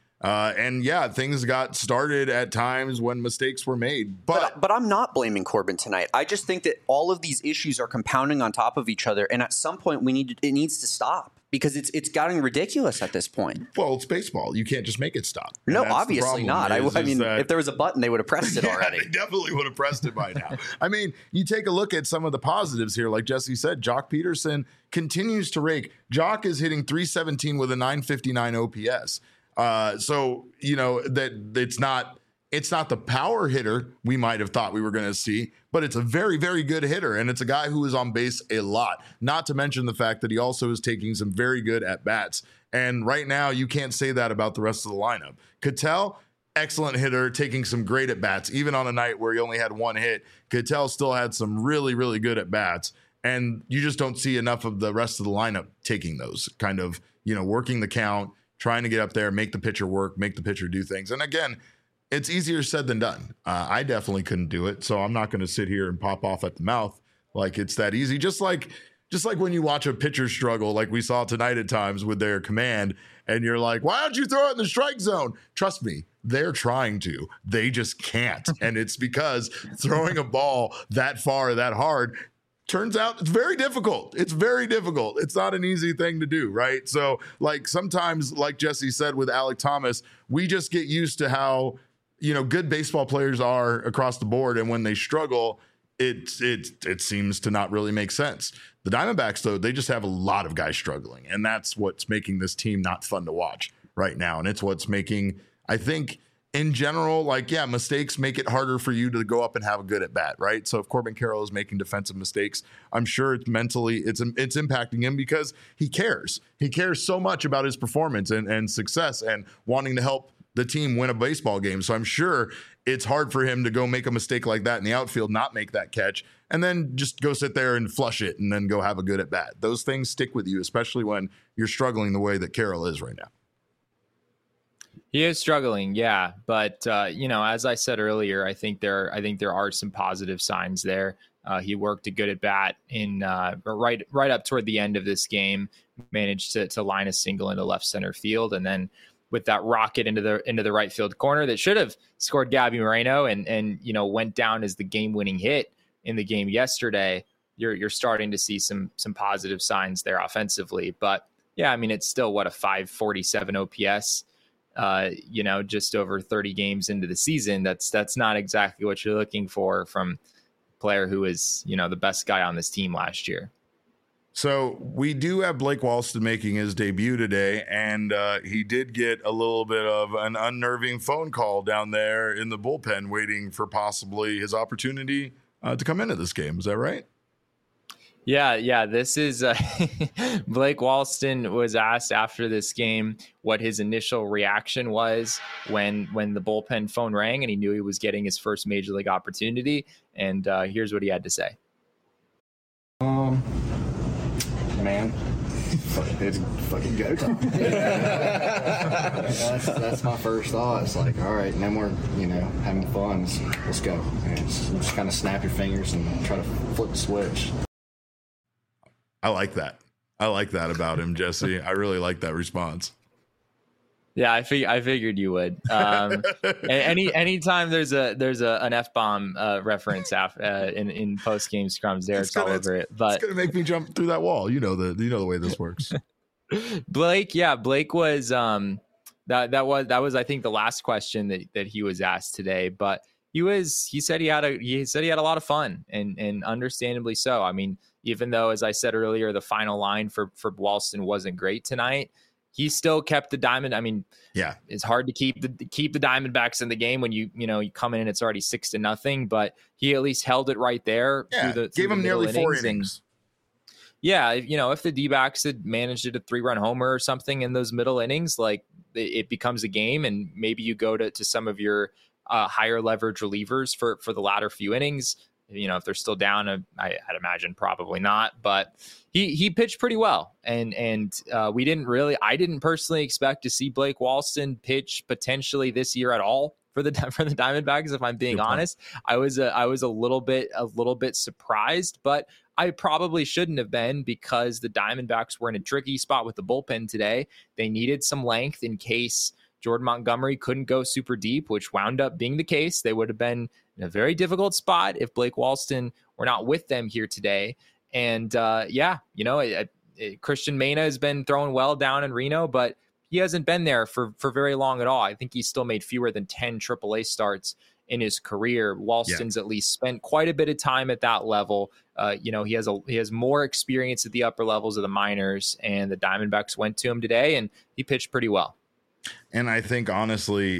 Things got started at times when mistakes were made. But I'm not blaming Corbin tonight. I just think that all of these issues are compounding on top of each other, and at some point it needs to stop because it's getting ridiculous at this point. Well, it's baseball. You can't just make it stop. No, obviously not. If there was a button, they would have pressed it already. They definitely would have pressed it by now. You take a look at some of the positives here. Like Jesse said, Jock Peterson continues to rake. Jock is hitting .317 with a .959 OPS. That it's not the power hitter we might have thought we were going to see, but it's a very, very good hitter. And it's a guy who is on base a lot, not to mention the fact that he also is taking some very good at bats. And right now you can't say that about the rest of the lineup. Ketel, excellent hitter, taking some great at bats, even on a night where he only had one hit. Ketel still had some really, really good at bats. And you just don't see enough of the rest of the lineup taking those kind of, working the count, trying to get up there, make the pitcher work, make the pitcher do things. And again, it's easier said than done. I definitely couldn't do it, so I'm not going to sit here and pop off at the mouth Like it's that easy. Just like when you watch a pitcher struggle, like we saw tonight at times with their command, and you're like, why don't you throw it in the strike zone? Trust me, they're trying to. They just can't. And it's because throwing a ball that far, that hard, turns out it's very difficult. It's very difficult. It's not an easy thing to do, right? So, like, sometimes, like Jesse said with Alek Thomas, we just get used to how, good baseball players are across the board. And when they struggle, it seems to not really make sense. The Diamondbacks, though, they just have a lot of guys struggling. And that's what's making this team not fun to watch right now. And it's what's making, I think, in general, mistakes make it harder for you to go up and have a good at bat, right? So if Corbin Carroll is making defensive mistakes, I'm sure it's impacting him because he cares. He cares so much about his performance and success and wanting to help the team win a baseball game. So I'm sure it's hard for him to go make a mistake like that in the outfield, not make that catch, and then just go sit there and flush it and then go have a good at bat. Those things stick with you, especially when you're struggling the way that Carroll is right now. He is struggling, yeah, but as I said earlier, I think there are some positive signs there. He worked a good at bat in right up toward the end of this game, managed to line a single into left center field, and then with that rocket into the right field corner that should have scored Gabby Moreno and went down as the game-winning hit in the game yesterday. You're starting to see some positive signs there offensively, but yeah, I mean it's still a 547 OPS. Just over 30 games into the season. That's not exactly what you're looking for from a player who is, the best guy on this team last year. So we do have Blake Walston making his debut today, and he did get a little bit of an unnerving phone call down there in the bullpen waiting for possibly his opportunity to come into this game. Is that right? Yeah. This is Blake Walston was asked after this game what his initial reaction was when the bullpen phone rang and he knew he was getting his first major league opportunity. And here's what he had to say. Man, it's fucking go time. That's my first thought. It's like, all right, now we're having fun. Let's go. And just kind of snap your fingers and try to flip the switch. I like that. I like that about him, Jesse. I really like that response. Yeah, I figured you would. Anytime there's an F-bomb reference in post game scrums, Derek's all over it. But it's gonna make me jump through that wall. You know the way this works. Blake was that was I think the last question that he was asked today. But he said he had a lot of fun and understandably so. I mean, even though, as I said earlier, the final line for Walston wasn't great tonight, he still kept the diamond. I mean, yeah, it's hard to keep the Diamondbacks in the game when you come in and it's already 6-0, but he at least held it right there. Yeah, gave him nearly 4 innings. Yeah, if the D-backs had managed a 3-run homer or something in those middle innings, like it becomes a game, and maybe you go to some of your higher leverage relievers for the latter few innings. If they're still down, I'd imagine probably not, but he pitched pretty well. And I didn't personally expect to see Blake Walston pitch potentially this year at all for the Diamondbacks. If I'm being honest, I was a little bit surprised, but I probably shouldn't have been, because the Diamondbacks were in a tricky spot with the bullpen today. They needed some length in case Jordan Montgomery couldn't go super deep, which wound up being the case. They would have been in a very difficult spot if Blake Walston were not with them here today. And Christian Mena has been throwing well down in Reno, but he hasn't been there for very long at all. I think he's still made fewer than 10 AAA starts in his career. Walston's at least spent quite a bit of time at that level. He has more experience at the upper levels of the minors, and the Diamondbacks went to him today and he pitched pretty well. And I think honestly,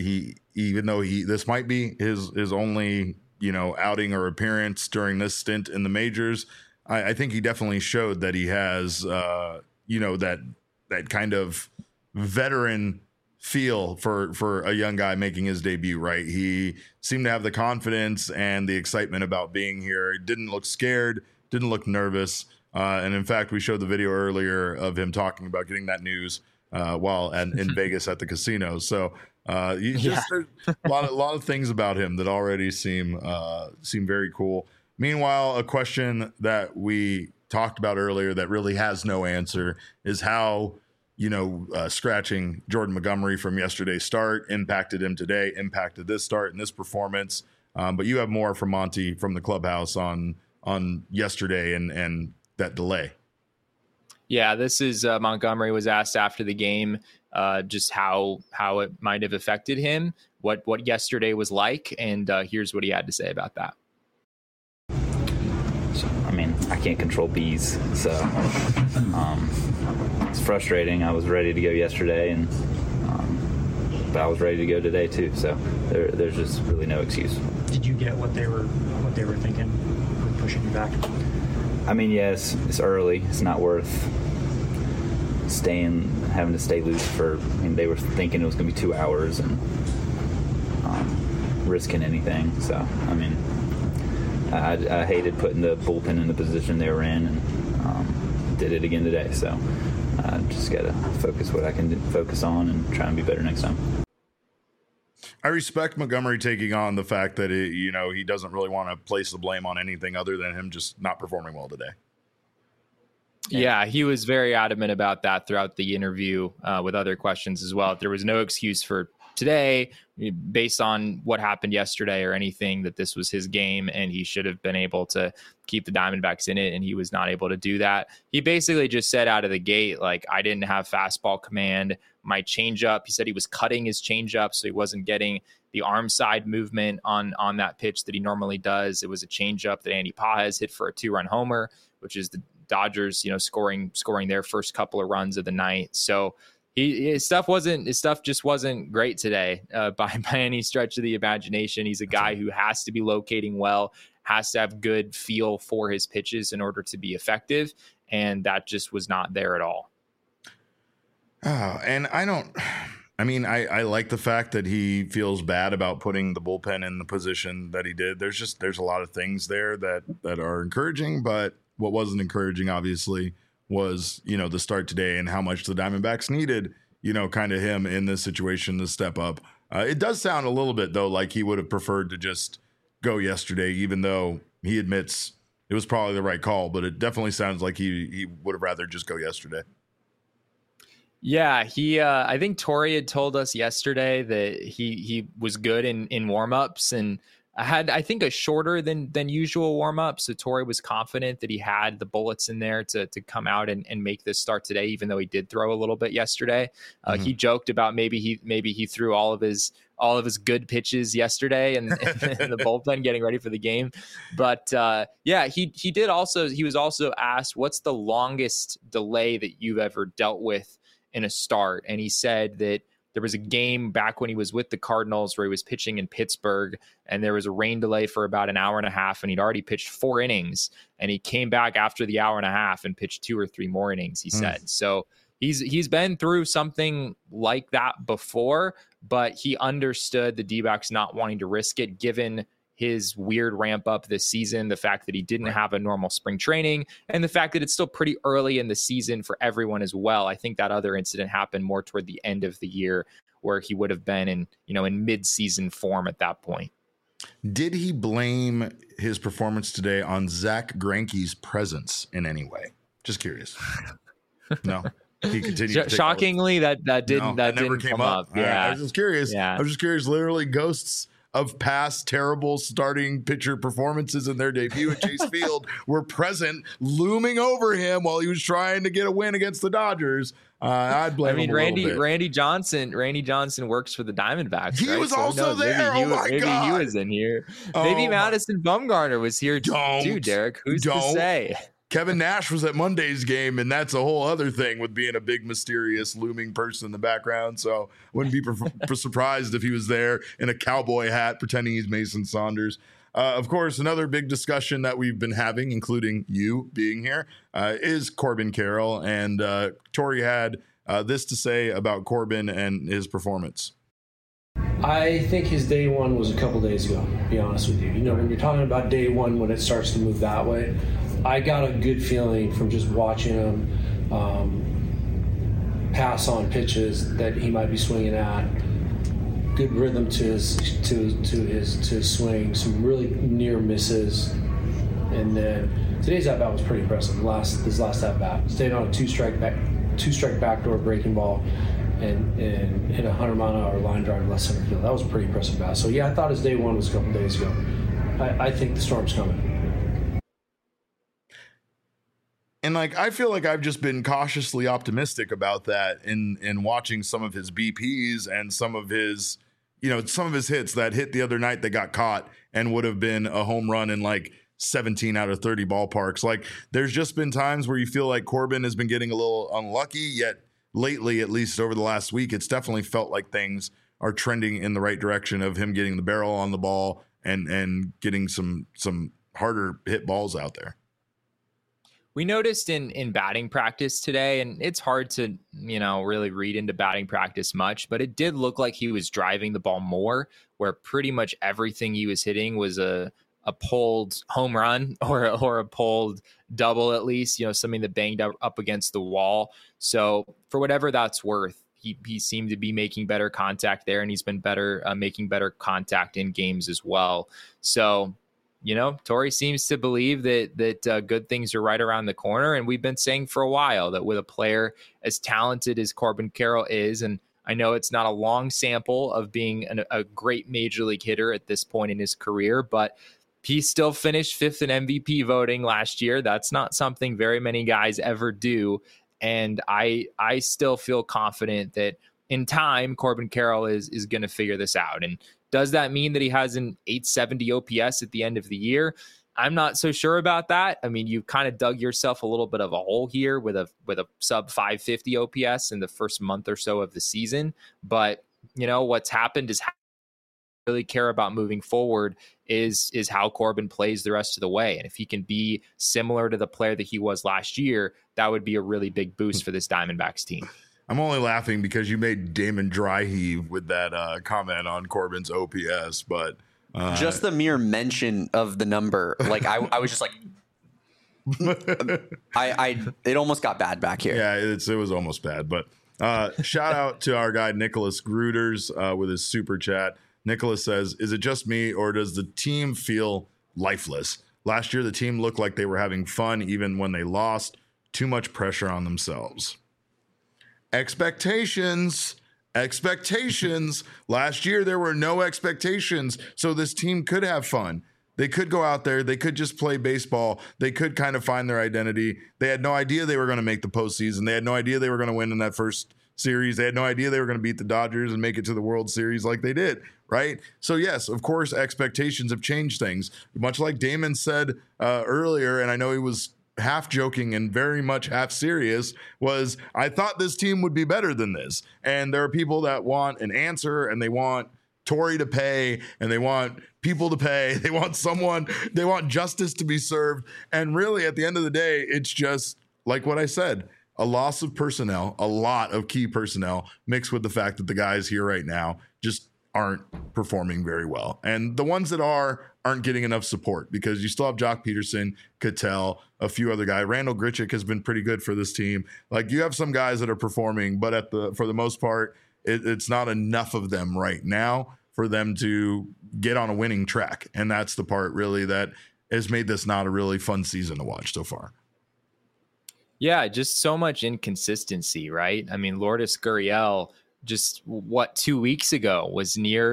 this might be his only, outing or appearance during this stint in the majors, I think he definitely showed that he has, that kind of veteran feel for a young guy making his debut, right? He seemed to have the confidence and the excitement about being here. He didn't look scared, didn't look nervous. And in fact, we showed the video earlier of him talking about getting that news while in Vegas at the casino. So there's a lot of things about him that already seem very cool. Meanwhile, a question that we talked about earlier that really has no answer is how, scratching Jordan Montgomery from yesterday's start impacted him today, impacted this start and this performance. But you have more from Monty from the clubhouse on yesterday and that delay. Yeah, this is Montgomery was asked after the game just how it might have affected him, what yesterday was like, and here's what he had to say about that. I mean, I can't control bees, so it's frustrating. I was ready to go yesterday, but I was ready to go today too. So there's just really no excuse. Did you get what they were thinking with pushing you back? I mean, yes, it's early. It's not worth having to stay loose for. I mean, they were thinking it was going to be 2 hours and risking anything. So I mean, I hated putting the bullpen in the position they were in, and did it again today. So I just got to focus what I can focus on and try and be better next time. I respect Montgomery taking on the fact that he doesn't really want to place the blame on anything other than him just not performing well today. Yeah, he was very adamant about that throughout the interview with other questions as well. There was no excuse for today based on what happened yesterday or anything, that this was his game and he should have been able to keep the Diamondbacks in it, and he was not able to do that. He basically just said out of the gate, like, I didn't have fastball command. My changeup, he said he was cutting his changeup, so he wasn't getting the arm side movement on that pitch that he normally does. It was a changeup that Andy Pages hit for a 2-run homer, which is the Dodgers, scoring their first couple of runs of the night. So his stuff just wasn't great today by any stretch of the imagination. He's a guy who has to be locating well, has to have good feel for his pitches in order to be effective, and that just was not there at all. Oh, and I like the fact that he feels bad about putting the bullpen in the position that he did. There's a lot of things there that are encouraging, but what wasn't encouraging, obviously, was, the start today and how much the Diamondbacks needed, kind of him in this situation to step up. It does sound a little bit, though, like he would have preferred to just go yesterday, even though he admits it was probably the right call, but it definitely sounds like he would have rather just go yesterday. Yeah, I think Torey had told us yesterday that he was good in warmups and had, I think, a shorter than usual warm-up. So Torey was confident that he had the bullets in there to come out and make this start today, even though he did throw a little bit yesterday. He joked about maybe he threw all of his good pitches yesterday and the bullpen getting ready for the game. But he was also asked, what's the longest delay that you've ever dealt with in a start? And he said that there was a game back when he was with the Cardinals where he was pitching in Pittsburgh, and there was a rain delay for about an hour and a half, and he'd already pitched 4 innings, and he came back after the hour and a half and pitched 2 or 3 more innings, he said. So he's been through something like that before, but he understood the D-backs not wanting to risk it given his weird ramp up this season, the fact that he didn't have a normal spring training, and the fact that it's still pretty early in the season for everyone as well. I think that other incident happened more toward the end of the year where he would have been in mid-season form at that point. Did he blame his performance today on Zach Greinke's presence in any way? Just curious. No. He continued. Shockingly, that didn't come up. Yeah, I was just curious. Yeah. I was just curious. Literally, ghosts of past terrible starting pitcher performances in their debut at Chase Field were present, looming over him while he was trying to get a win against the Dodgers. I'd blame him a little bit. Randy Johnson works for the Diamondbacks. He was also there. Maybe he was in here. Maybe Madison Bumgarner was here too, Derek. Who's to say? Kevin Nash was at Monday's game, and that's a whole other thing with being a big, mysterious, looming person in the background. So wouldn't be surprised if he was there in a cowboy hat pretending he's Mason Saunders. Of course, another big discussion that we've been having, including you being here, is Corbin Carroll. And Torey had this to say about Corbin and his performance. I think his day one was a couple days ago, to be honest with you. When you're talking about day one, when it starts to move that way, I got a good feeling from just watching him pass on pitches that he might be swinging at. Good rhythm to his swing, some really near misses. And then today's at bat was pretty impressive. This last at bat, stayed on a two strike backdoor breaking ball, and hit a 100-mile-an-hour line drive left center field. That was a pretty impressive bat. So yeah, I thought his day one was a couple days ago. I think the storm's coming. And like, I feel like I've just been cautiously optimistic about that in watching some of his BPs and some of his hits that hit the other night that got caught and would have been a home run in like 17 out of 30 ballparks. Like, there's just been times where you feel like Corbin has been getting a little unlucky, yet lately, at least over the last week, it's definitely felt like things are trending in the right direction of him getting the barrel on the ball and getting some harder hit balls out there. We noticed in batting practice today, and it's hard to, really read into batting practice much, but it did look like he was driving the ball more, where pretty much everything he was hitting was a pulled home run or a pulled double, at least, something that banged up against the wall. So for whatever that's worth, he seemed to be making better contact there, and he's been better making better contact in games as well. So, Torey seems to believe that good things are right around the corner. And we've been saying for a while that with a player as talented as Corbin Carroll is, and I know it's not a long sample of being a great major league hitter at this point in his career, but he still finished fifth in MVP voting last year. That's not something very many guys ever do. And I still feel confident that in time, Corbin Carroll is going to figure this out. And does that mean that he has an 870 OPS at the end of the year? I'm not so sure about that. I mean, you've kind of dug yourself a little bit of a hole here with a sub 550 OPS in the first month or so of the season. But, what's happened is really care about moving forward is how Corbin plays the rest of the way. And if he can be similar to the player that he was last year, that would be a really big boost for this Diamondbacks team. I'm only laughing because you made Damon dry heave with that comment on Corbin's OPS, but just the mere mention of the number, like I was just like, it almost got bad back here. Yeah, it was almost bad. But shout out to our guy Nicholas Gruters with his super chat. Nicholas says, "Is it just me, or does the team feel lifeless? Last year, the team looked like they were having fun even when they lost. Too much pressure on themselves." Expectations. Last year, there were no expectations, so this team could have fun. They could go out there. They could just play baseball. They could kind of find their identity. They had no idea they were going to make the postseason. They had no idea they were going to win in that first series. They had no idea they were going to beat the Dodgers and make it to the World Series like they did, right? So yes, of course, expectations have changed things. Much like Damon said earlier, and I know he was half joking and very much half serious, was I thought this team would be better than this. And there are people that want an answer, and they want Torey to pay, and they want people to pay. They want justice to be served. And really, at the end of the day, it's just like what I said, a loss of personnel, a lot of key personnel, mixed with the fact that the guys here right now just aren't performing very well. And the ones that aren't getting enough support, because you still have Jock Peterson, Cattell, a few other guys. Randall Grichuk has been pretty good for this team. Like, you have some guys that are performing, but for the most part, it's not enough of them right now for them to get on a winning track. And that's the part really that has made this not a really fun season to watch so far. Yeah, just so much inconsistency, right? I mean, Lourdes Gurriel, just 2 weeks ago was near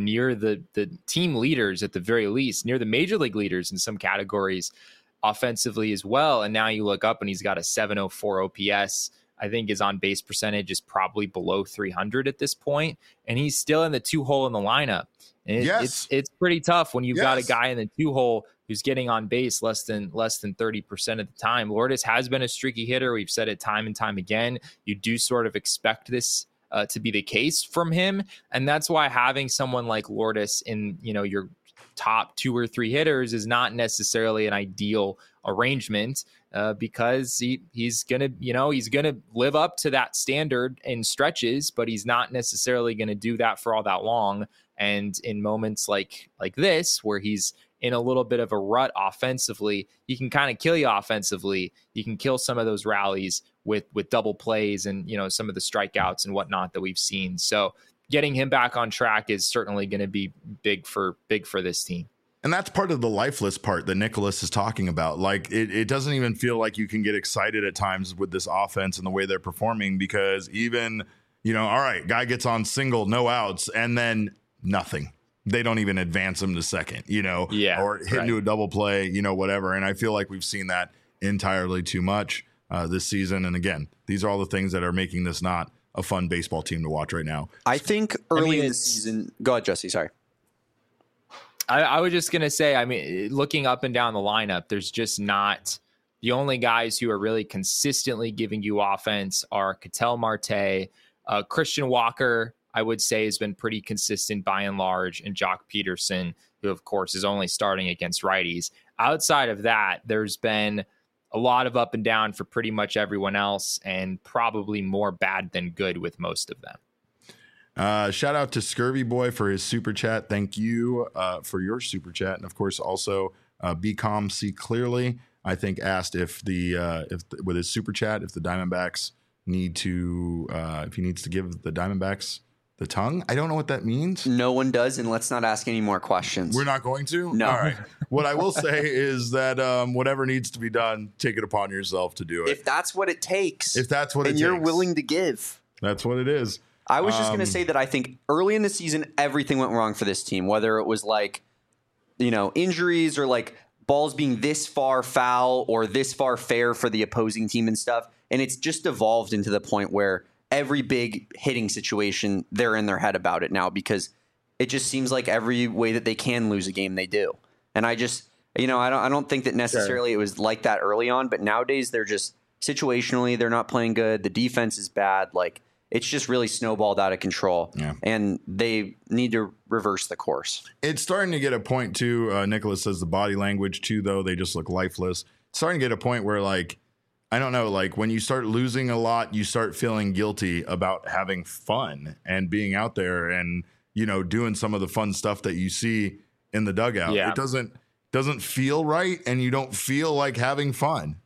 the team leaders at the very least, near the major league leaders in some categories offensively as well. And now you look up and he's got a 704 OPS. I think his on base percentage is probably below 300 at this point, and he's still in the 2-hole in the lineup. And it's pretty tough when you've got a guy in the 2-hole who's getting on base less than 30% of the time. Lourdes has been a streaky hitter. We've said it time and time again. You do sort of expect this to be the case from him, and that's why having someone like Lourdes in your top 2 or 3 hitters is not necessarily an ideal arrangement, because he's gonna live up to that standard in stretches, but he's not necessarily going to do that for all that long. And in moments like this, where he's in a little bit of a rut offensively, he can kind of kill you offensively. You can kill some of those rallies with double plays and some of the strikeouts and whatnot that we've seen. So getting him back on track is certainly going to be big for this team. And that's part of the lifeless part that Nicholas is talking about. Like, it doesn't even feel like you can get excited at times with this offense and the way they're performing, because even, all right, guy gets on single, no outs, and then nothing. They don't even advance him to second, or hit into a double play, whatever. And I feel like we've seen that entirely too much this season. And again, these are all the things that are making this not a fun baseball team to watch right now. I think early in the season, go ahead, Jesse, sorry. I was just going to say, looking up and down the lineup, there's just not the only guys who are really consistently giving you offense are Ketel Marte, Christian Walker, I would say has been pretty consistent by and large, and Jock Peterson, who of course is only starting against righties. Outside of that, there's been a lot of up and down for pretty much everyone else, and probably more bad than good with most of them. Shout out to Scurvy Boy for his super chat. Thank you for your super chat. And of course, also Be Calm, See Clearly, I think, asked if with his super chat, if the Diamondbacks if he needs to give the Diamondbacks the tongue. I don't know what that means. No one does, and let's not ask any more questions. We're not going to? No. All right. What I will say is that whatever needs to be done, take it upon yourself to do it. If that's what it takes. And you're willing to give. That's what it is. I was just going to say that I think early in the season, everything went wrong for this team, whether it was injuries or balls being this far foul or this far fair for the opposing team and stuff. And it's just evolved into the point where every big hitting situation, they're in their head about it now, because it just seems like every way that they can lose a game, they do. And I just, I don't think that necessarily it was like that early on, but nowadays they're just situationally, they're not playing good. The defense is bad. It's just really snowballed out of control, and they need to reverse the course. It's starting to get a point, too. Nicholas says the body language, too, though. They just look lifeless. It's starting to get a point where, I don't know, when you start losing a lot, you start feeling guilty about having fun and being out there and, doing some of the fun stuff that you see in the dugout. Yeah. It doesn't feel right, and you don't feel like having fun,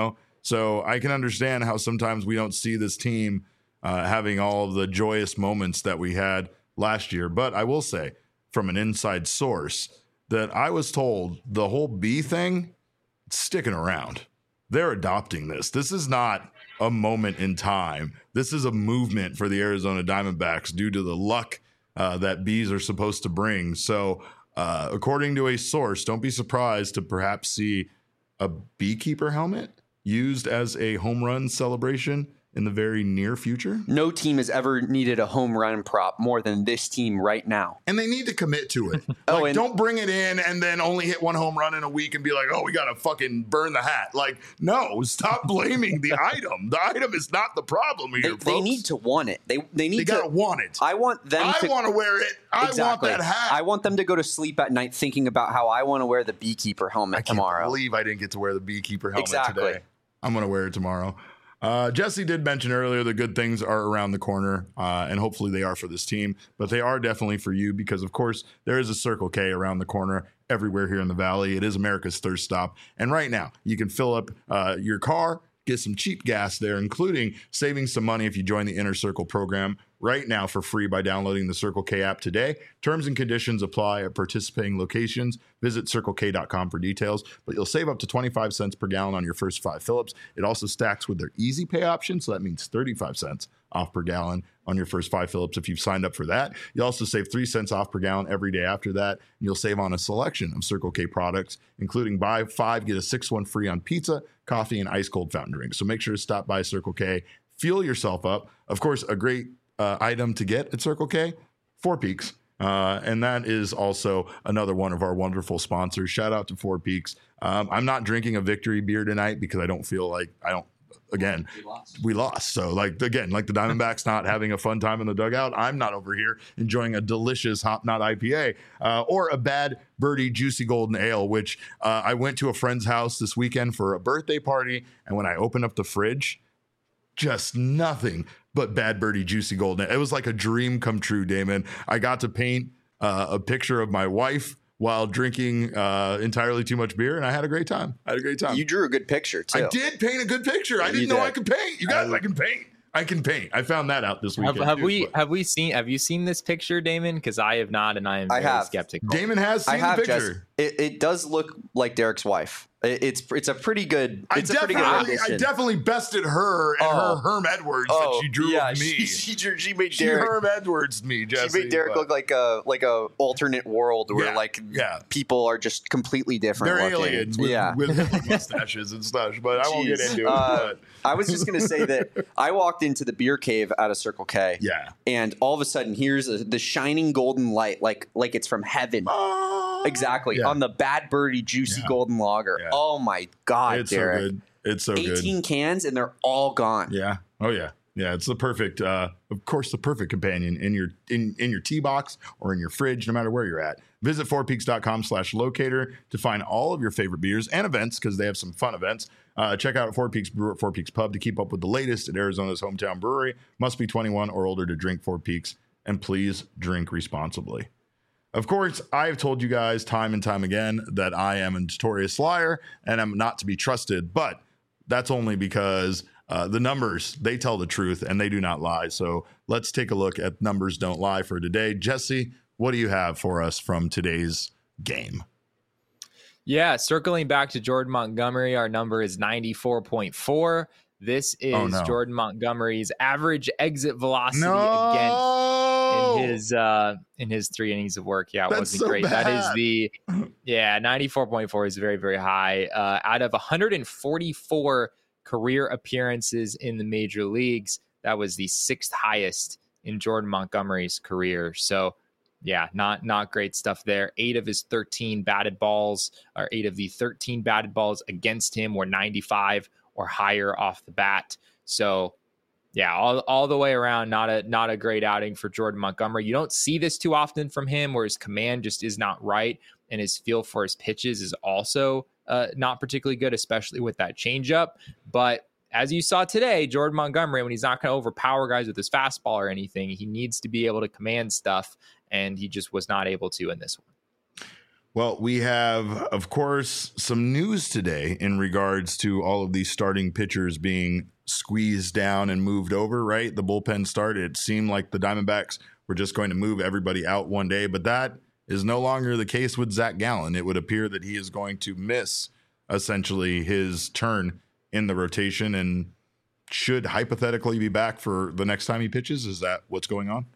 So I can understand how sometimes we don't see this team having all of the joyous moments that we had last year. But I will say, from an inside source, that I was told the whole B thing, it's sticking around. They're adopting this. This is not a moment in time. This is a movement for the Arizona Diamondbacks due to the luck that bees are supposed to bring. So according to a source, don't be surprised to perhaps see a beekeeper helmet used as a home run celebration in the very near future. No team has ever needed a home run prop more than this team right now. And they need to commit to it. Don't bring it in and then only hit one home run in a week and be like, oh, we got to fucking burn the hat. No, stop blaming the item. The item is not the problem here, folks. They need to want it. They got to want it. I want them I want to wear it. Exactly. I want that hat. I want them to go to sleep at night thinking about how I want to wear the beekeeper helmet tomorrow. I can't believe I didn't get to wear the beekeeper helmet today. I'm going to wear it tomorrow. Jesse did mention earlier the good things are around the corner, and hopefully they are for this team, but they are definitely for you because, of course, there is a Circle K around the corner everywhere here in the Valley. It is America's thirst stop, and right now you can fill up your car, get some cheap gas there, including saving some money if you join the Inner Circle program right now for free by downloading the Circle K app today. Terms and conditions apply at participating locations. Visit CircleK.com for details, but you'll save up to 25 cents per gallon on your first 5 fill-ups. It also stacks with their Easy Pay option, so that means 35 cents off per gallon on your first 5 fill-ups if you've signed up for that. You also save 3 cents off per gallon every day after that, and you'll save on a selection of Circle K products, including buy 5, get a 6th one free on pizza, coffee, and ice-cold fountain drinks. So make sure to stop by Circle K, fuel yourself up. Of course, a great item to get at Circle K, 4 Peaks. And that is also another one of our wonderful sponsors. Shout out to 4 Peaks. I'm not drinking a victory beer tonight because I don't feel like we lost. So the Diamondbacks not having a fun time in the dugout. I'm not over here enjoying a delicious Hop Knot IPA or a Bad Birdie Juicy Golden Ale, which I went to a friend's house this weekend for a birthday party. And when I opened up the fridge, just nothing but Bad Birdie Juicy Golden. It was like a dream come true, Damon. I got to paint a picture of my wife while drinking entirely too much beer, and I had a great time. You drew a good picture, too. I did paint a good picture. I didn't know I could paint. You guys, I can paint. I can paint. I found that out this weekend. Have you seen this picture, Damon? Because I have not, and I am very skeptical. Damon has seen the picture. It does look like Derek's wife. It's a pretty good. I It's a pretty good rendition. I definitely bested her and her Herm Edwards that she drew of me. She made She Derek. Herm Edwards me, Jesse. She made Derek look like a alternate world where people are just completely different. They're looking. aliens with mustaches and stuff, but I won't get into it. I was just going to say that I walked into the beer cave at a Circle K. Yeah. And all of a sudden, here's the shining golden light, like it's from heaven. Exactly. Yeah. On the Bad Birdie Juicy Golden Lager. Yeah. Oh, my God, it's Derek. So good. It's so 18 good. 18 cans, and they're all gone. Yeah. Oh, yeah. Yeah, it's the perfect, of course, the perfect companion in your tea box or in your fridge, no matter where you're at. Visit fourpeaks.com/locator to find all of your favorite beers and events, because they have some fun events. Check out Four Peaks Brewer at Four Peaks Pub to keep up with the latest at Arizona's hometown brewery. Must be 21 or older to drink Four Peaks, and please drink responsibly. Of course, I've told you guys time and time again that I am a notorious liar and I'm not to be trusted, but that's only because the numbers, they tell the truth and they do not lie. So let's take a look at Numbers Don't Lie for today. Jesse, what do you have for us from today's game? Yeah, circling back to Jordan Montgomery, our number is 94.4. This is Jordan Montgomery's average exit velocity in his 3 innings of work. Yeah, it wasn't so great. Bad. That is 94.4 is very, very high. Out of 144 career appearances in the major leagues, that was the 6th highest in Jordan Montgomery's career. So yeah, not great stuff there. 8 of his 13 batted balls, or 8 of the 13 batted balls against him were 95 or higher off the bat. So yeah, all the way around, not a great outing for Jordan Montgomery. You don't see this too often from him, where his command just is not right, and his feel for his pitches is also not particularly good, especially with that changeup. But as you saw today, Jordan Montgomery, when he's not going to overpower guys with his fastball or anything, he needs to be able to command stuff, and he just was not able to in this one. Well, we have, of course, some news today in regards to all of these starting pitchers being squeezed down and moved over, right? The bullpen start, it seemed like the Diamondbacks were just going to move everybody out one day, but that is no longer the case with Zach Gallen. It would appear that he is going to miss essentially his turn in the rotation and should hypothetically be back for the next time he pitches. Is that what's going on?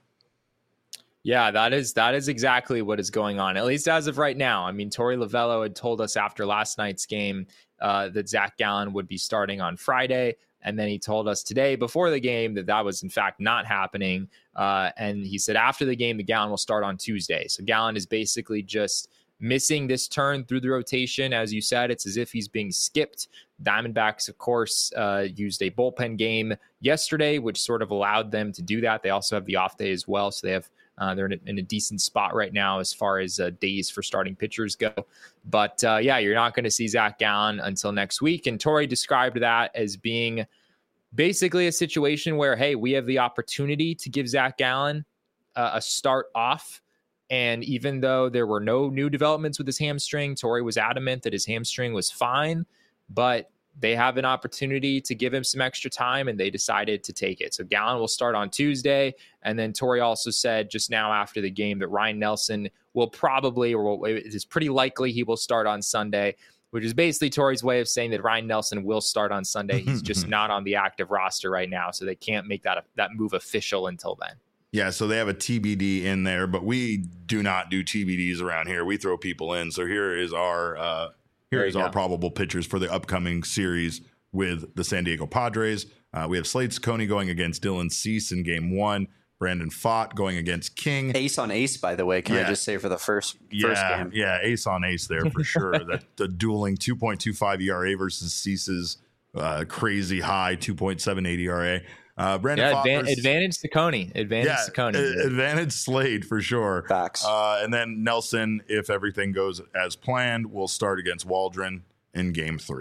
Yeah, that is exactly what is going on, at least as of right now. I mean, Torey Lovullo had told us after last night's game that Zach Gallen would be starting on Friday. And then he told us today before the game that was in fact not happening. And he said after the game, the Gallen will start on Tuesday. So Gallen is basically just missing this turn through the rotation. As you said, it's as if he's being skipped. Diamondbacks, of course, used a bullpen game yesterday, which sort of allowed them to do that. They also have the off day as well. So they have they're in a decent spot right now as far as days for starting pitchers go. But yeah, you're not going to see Zach Gallen until next week. And Torey described that as being basically a situation where, hey, we have the opportunity to give Zach Gallen a start off. And even though there were no new developments with his hamstring, Torey was adamant that his hamstring was fine, but they have an opportunity to give him some extra time, and they decided to take it. So Gallen will start on Tuesday. And then Torey also said just now after the game that Ryan Nelson will probably, or it is pretty likely he will start on Sunday, which is basically Torey's way of saying that Ryan Nelson will start on Sunday. He's just not on the active roster right now, so they can't make that move official until then. Yeah, so they have a TBD in there, but we do not do TBDs around here. We throw people in. So here is our our probable pitchers for the upcoming series with the San Diego Padres. We have Slade Cecconi going against Dylan Cease in game 1. Brandon Pfaadt going against King. Ace on ace, by the way. Can I just say for the first game? Yeah, ace on ace there for sure. The dueling 2.25 ERA versus Cease's crazy high 2.78 ERA. Brandon Pfaadt advantage Cecconi. Advantage Slade for sure. Facts. And then Nelson, if everything goes as planned, will start against Waldron in game 3.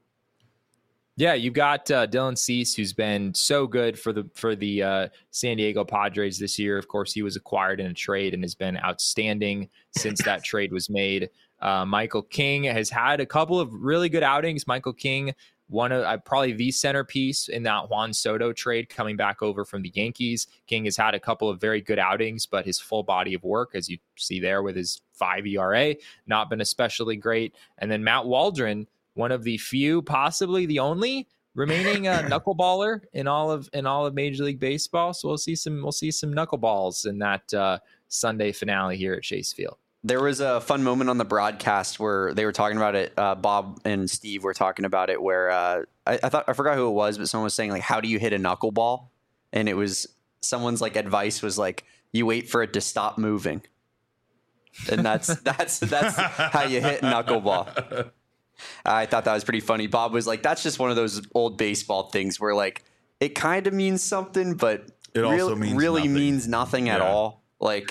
Yeah, you've got Dylan Cease, who's been so good for the San Diego Padres this year. Of course, he was acquired in a trade and has been outstanding since that trade was made. Michael King has had a couple of really good outings. Michael King one of probably the centerpiece in that Juan Soto trade coming back over from the Yankees. King has had a couple of very good outings, but his full body of work, as you see there with his 5 ERA, not been especially great. And then Matt Waldron, one of the few, possibly the only remaining knuckleballer in all of Major League Baseball. So we'll see some knuckleballs in that Sunday finale here at Chase Field. There was a fun moment on the broadcast where they were talking about it. Bob and Steve were talking about it where I forgot who it was, but someone was saying, like, how do you hit a knuckleball? And it was someone's like advice was like, you wait for it to stop moving. And that's how you hit knuckleball. I thought that was pretty funny. Bob was like, that's just one of those old baseball things where, like, it kind of means something, but it also means nothing at all. Like,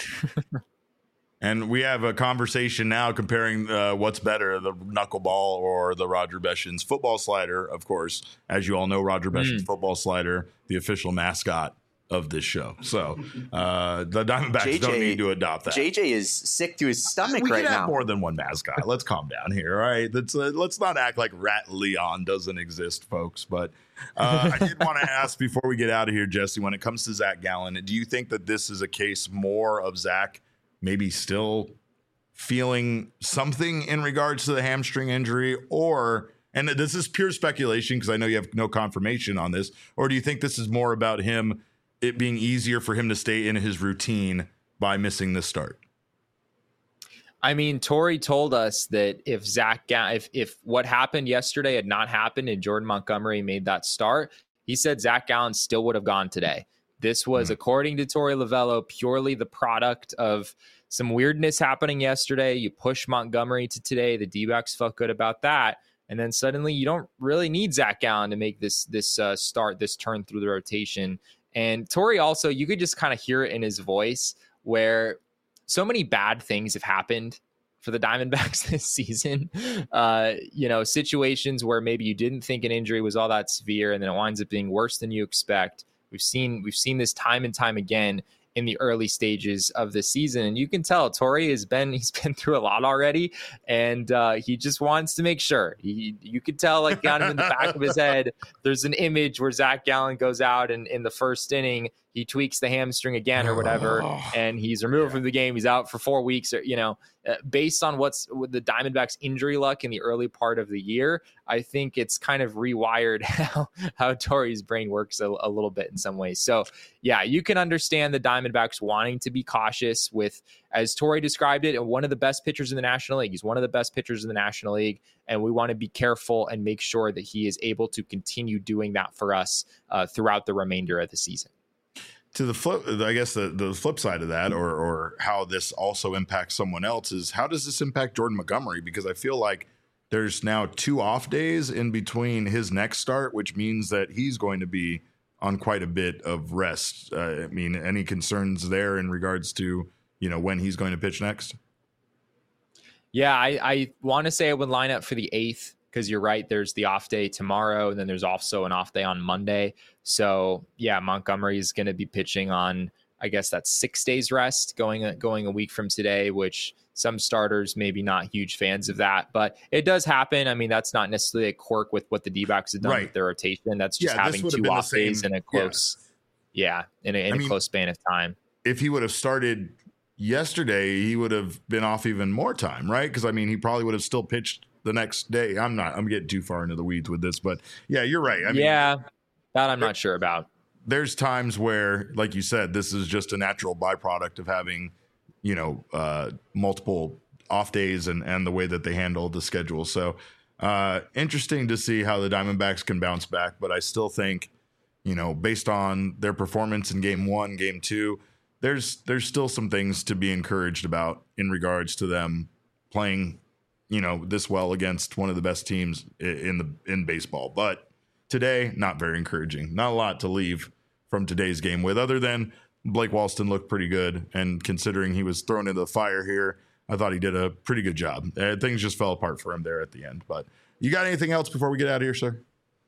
and we have a conversation now comparing what's better, the knuckleball or the Roger Beshin's football slider. Of course, as you all know, Roger Beshin's football slider, the official mascot of this show. So the Diamondbacks don't need to adopt that. JJ is sick to his stomach right now. We can have more than one mascot. Let's calm down here, all right? Let's not act like Rat Leon doesn't exist, folks. But I did want to ask before we get out of here, Jesse, when it comes to Zach Gallen, do you think that this is a case more of Zach maybe still feeling something in regards to the hamstring injury, or, and this is pure speculation because I know you have no confirmation on this, or do you think this is more about him, it being easier for him to stay in his routine by missing this start? I mean, Torey told us that if what happened yesterday had not happened and Jordan Montgomery made that start, he said Zach Gallen still would have gone today. This was, according to Torey Lovello, purely the product of some weirdness happening yesterday. You push Montgomery to today. The D-backs felt good about that. And then suddenly you don't really need Zach Gallen to make this turn through the rotation. And Torey also, you could just kind of hear it in his voice where so many bad things have happened for the Diamondbacks this season. Situations where maybe you didn't think an injury was all that severe and then it winds up being worse than you expect. We've seen this time and time again in the early stages of the season. And you can tell Torey he's been through a lot already. And he just wants to make sure. You could tell, like, kind of in the back of his head, there's an image where Zach Gallen goes out and in the first inning, he tweaks the hamstring again or whatever, and he's removed from the game. He's out for 4 weeks, or, based on what's with the Diamondbacks' injury luck in the early part of the year. I think it's kind of rewired how Torey's brain works a little bit in some ways. So yeah, you can understand the Diamondbacks wanting to be cautious with, as Torey described it, one of the best pitchers in the National League. He's one of the best pitchers in the National League, and we want to be careful and make sure that he is able to continue doing that for us throughout the remainder of the season. To the flip, I guess the flip side of that, or how this also impacts someone else, is how does this impact Jordan Montgomery? Because I feel like there's now 2 off days in between his next start, which means that he's going to be on quite a bit of rest. I mean, any concerns there in regards to, when he's going to pitch next? Yeah, I want to say I would line up for the 8th. Because you're right, there's the off day tomorrow, and then there's also an off day on Monday. So yeah, Montgomery is going to be pitching on, I guess that's 6 days rest going a week from today, which some starters maybe not huge fans of that, but it does happen. I mean, that's not necessarily a quirk with what the D-backs have done with their rotation. That's just having 2 off days in a close, in a close span of time. If he would have started yesterday, he would have been off even more time, right? Because I mean, he probably would have still pitched the next day. I'm getting too far into the weeds with this, but yeah, you're right. I mean, that I'm not sure about. There's times where, like you said, this is just a natural byproduct of having, multiple off days and the way that they handle the schedule. So interesting to see how the Diamondbacks can bounce back. But I still think, based on their performance in game 1, game 2, there's still some things to be encouraged about in regards to them playing this well against one of the best teams in baseball. But today, not very encouraging. Not a lot to leave from today's game with, other than Blake Walston looked pretty good. And considering he was thrown into the fire here, I thought he did a pretty good job. Things just fell apart for him there at the end. But you got anything else before we get out of here, sir?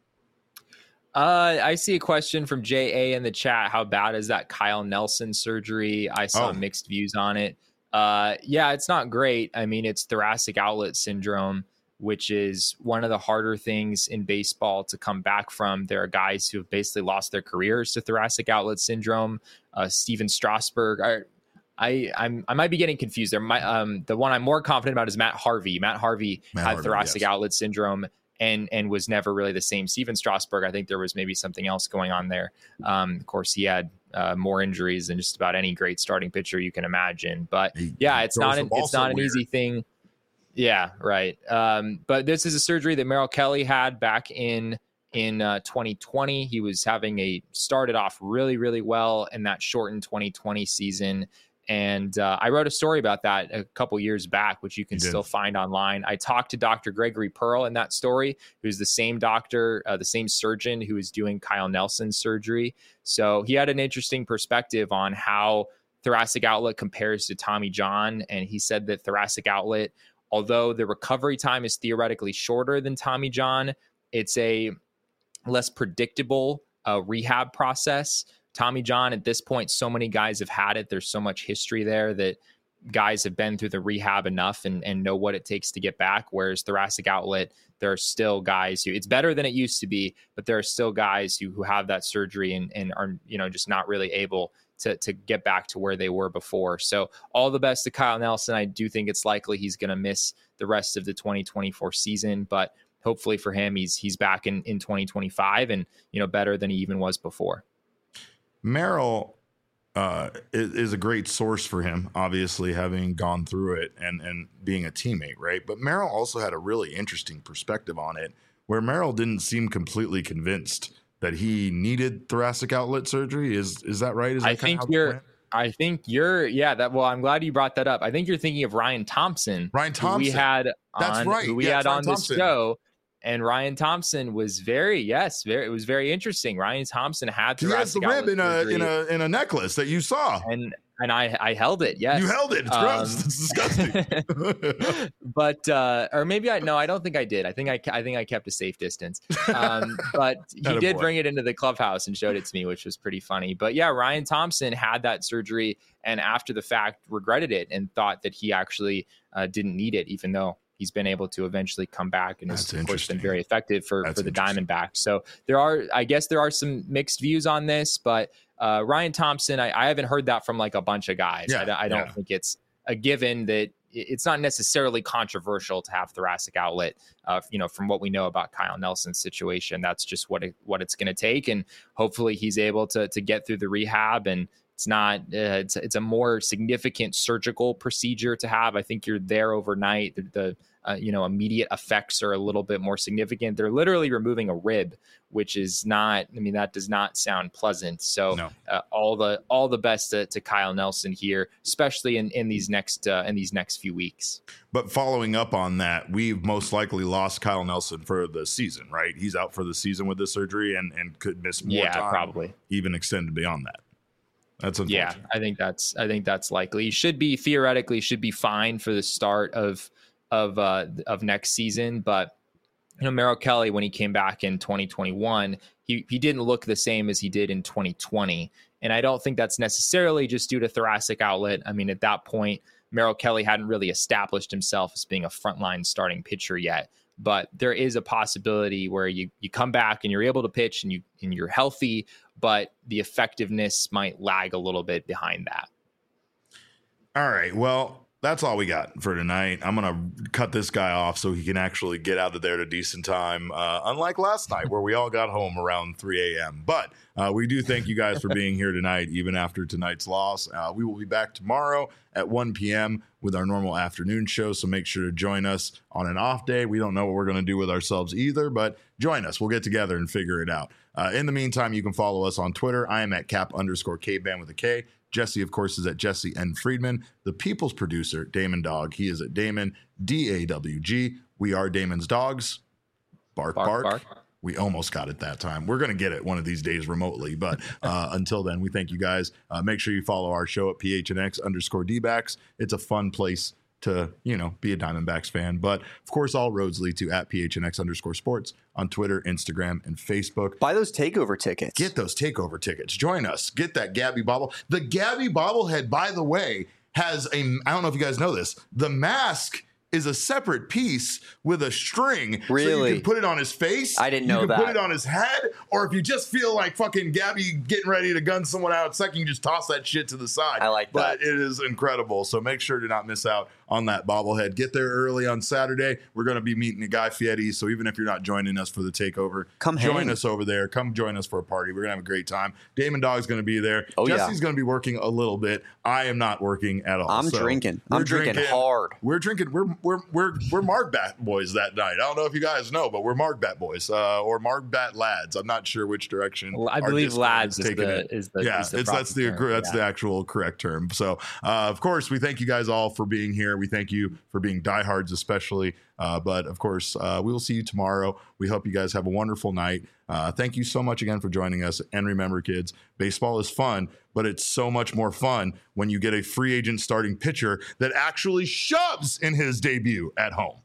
I see a question from J.A. in the chat. How bad is that Kyle Nelson surgery? I saw mixed views on it. It's not great. I mean, it's thoracic outlet syndrome, which is one of the harder things in baseball to come back from. There are guys who have basically lost their careers to thoracic outlet syndrome. Steven Strasburg. I might be getting confused there. The one I'm more confident about is Matt Harvey. Matt Harvey had thoracic outlet syndrome and was never really the same. Steven Strasburg, I think there was maybe something else going on there. Of course, he had more injuries than just about any great starting pitcher you can imagine. But it's not an easy thing. Yeah, right. But this is a surgery that Merrill Kelly had back in 2020. He was started off really, really well in that shortened 2020 season. And I wrote a story about that a couple years back, which you can still find online. I talked to Dr. Gregory Pearl in that story, who's the same doctor, the same surgeon who is doing Kyle Nelson's surgery. So he had an interesting perspective on how thoracic outlet compares to Tommy John. And he said that thoracic outlet, although the recovery time is theoretically shorter than Tommy John, it's a less predictable rehab process. Tommy John, at this point, so many guys have had it. There's so much history there that guys have been through the rehab enough and know what it takes to get back. Whereas thoracic outlet, there are still guys who, it's better than it used to be, but there are still guys who have that surgery and are, just not really able to get back to where they were before. So all the best to Kyle Nelson. I do think it's likely he's going to miss the rest of the 2024 season, but hopefully for him, he's back in 2025 and, better than he even was before. Merrill is a great source for him, obviously, having gone through it and being a teammate, right? But Merrill also had a really interesting perspective on it, where Merrill didn't seem completely convinced that he needed thoracic outlet surgery. Is that right? I'm glad you brought that up. I think you're thinking of Ryan Thompson. Who we had on this show. And Ryan Thompson was it was very interesting. Ryan Thompson had thoracic outlet surgery. He has the rib in a necklace that you saw. And I held it. Yes. You held it. It's gross. It's disgusting. But or maybe I don't think I did. I think I kept a safe distance. But he did bring it into the clubhouse and showed it to me, which was pretty funny. But yeah, Ryan Thompson had that surgery and after the fact regretted it and thought that he actually didn't need it, even though he's been able to eventually come back and has, of course, been very effective for the Diamondbacks. So there are some mixed views on this, but Ryan Thompson, I haven't heard that from like a bunch of guys. I don't think it's a given that it's not necessarily controversial to have thoracic outlet. From what we know about Kyle Nelson's situation, that's just what it's going to take. And hopefully he's able to get through the rehab, and it's not, it's a more significant surgical procedure to have. I think you're there overnight. The immediate effects are a little bit more significant. They're literally removing a rib, which is not, that does not sound pleasant. So no. All the best to Kyle Nelson here, especially in these next few weeks. But following up on that, we've most likely lost Kyle Nelson for the season, right? He's out for the season with the surgery and could miss more time, probably even extended beyond that. That's unfortunate. Yeah, I think that's likely. He theoretically should be fine for the start of next season. But Merrill Kelly, when he came back in 2021, he didn't look the same as he did in 2020. And I don't think that's necessarily just due to thoracic outlet. At that point, Merrill Kelly hadn't really established himself as being a frontline starting pitcher yet. But there is a possibility where you come back and you're able to pitch and you're healthy, but the effectiveness might lag a little bit behind that. All right. Well, that's all we got for tonight. I'm going to cut this guy off so he can actually get out of there at a decent time, unlike last night where we all got home around 3 a.m. But we do thank you guys for being here tonight, even after tonight's loss. We will be back tomorrow at 1 p.m. with our normal afternoon show, so make sure to join us on an off day. We don't know what we're going to do with ourselves either, but join us. We'll get together and figure it out. In the meantime, you can follow us on Twitter. I am at cap_Kban with a K. Jesse, of course, is at Jesse N. Friedman. The People's producer, Damon Dog. He is at Damon, DAWG. We are Damon's dogs. Bark, bark. Bark. We almost got it that time. We're going to get it one of these days remotely. But until then, we thank you guys. Make sure you follow our show at PHNX_DBacks. It's a fun place to, be a Diamondbacks fan. But, of course, all roads lead to at PHNX_sports on Twitter, Instagram, and Facebook. Buy those takeover tickets. Get those takeover tickets. Join us. Get that Gabby Bobble. The Gabby bobblehead, by the way, has I don't know if you guys know this, the mask is a separate piece with a string. Really? So you can put it on his face. I didn't know that. You can put it on his head, or if you just feel like fucking Gabby getting ready to gun someone out second, you just toss that shit to the side. I like that. But it is incredible. So make sure to not miss out on that bobblehead. Get there early on Saturday. We're going to be meeting a Guy Fieri. So even if you're not joining us for the takeover, come join us over there. Come join us for a party. We're going to have a great time. Damon Dog's going to be there. Oh, Jesse's going to be working a little bit. I am not working at all. I'm drinking. I'm drinking hard. We're drinking. We're Margbat boys that night. I don't know if you guys know, but we're Margbat boys or Margbat lads. I'm not sure which direction. Well, I believe lads is the actual correct term. So of course we thank you guys all for being here. We thank you for being diehards, especially. But of course, we will see you tomorrow. We hope you guys have a wonderful night. Thank you so much again for joining us. And remember, kids, baseball is fun, but it's so much more fun when you get a free agent starting pitcher that actually shoves in his debut at home.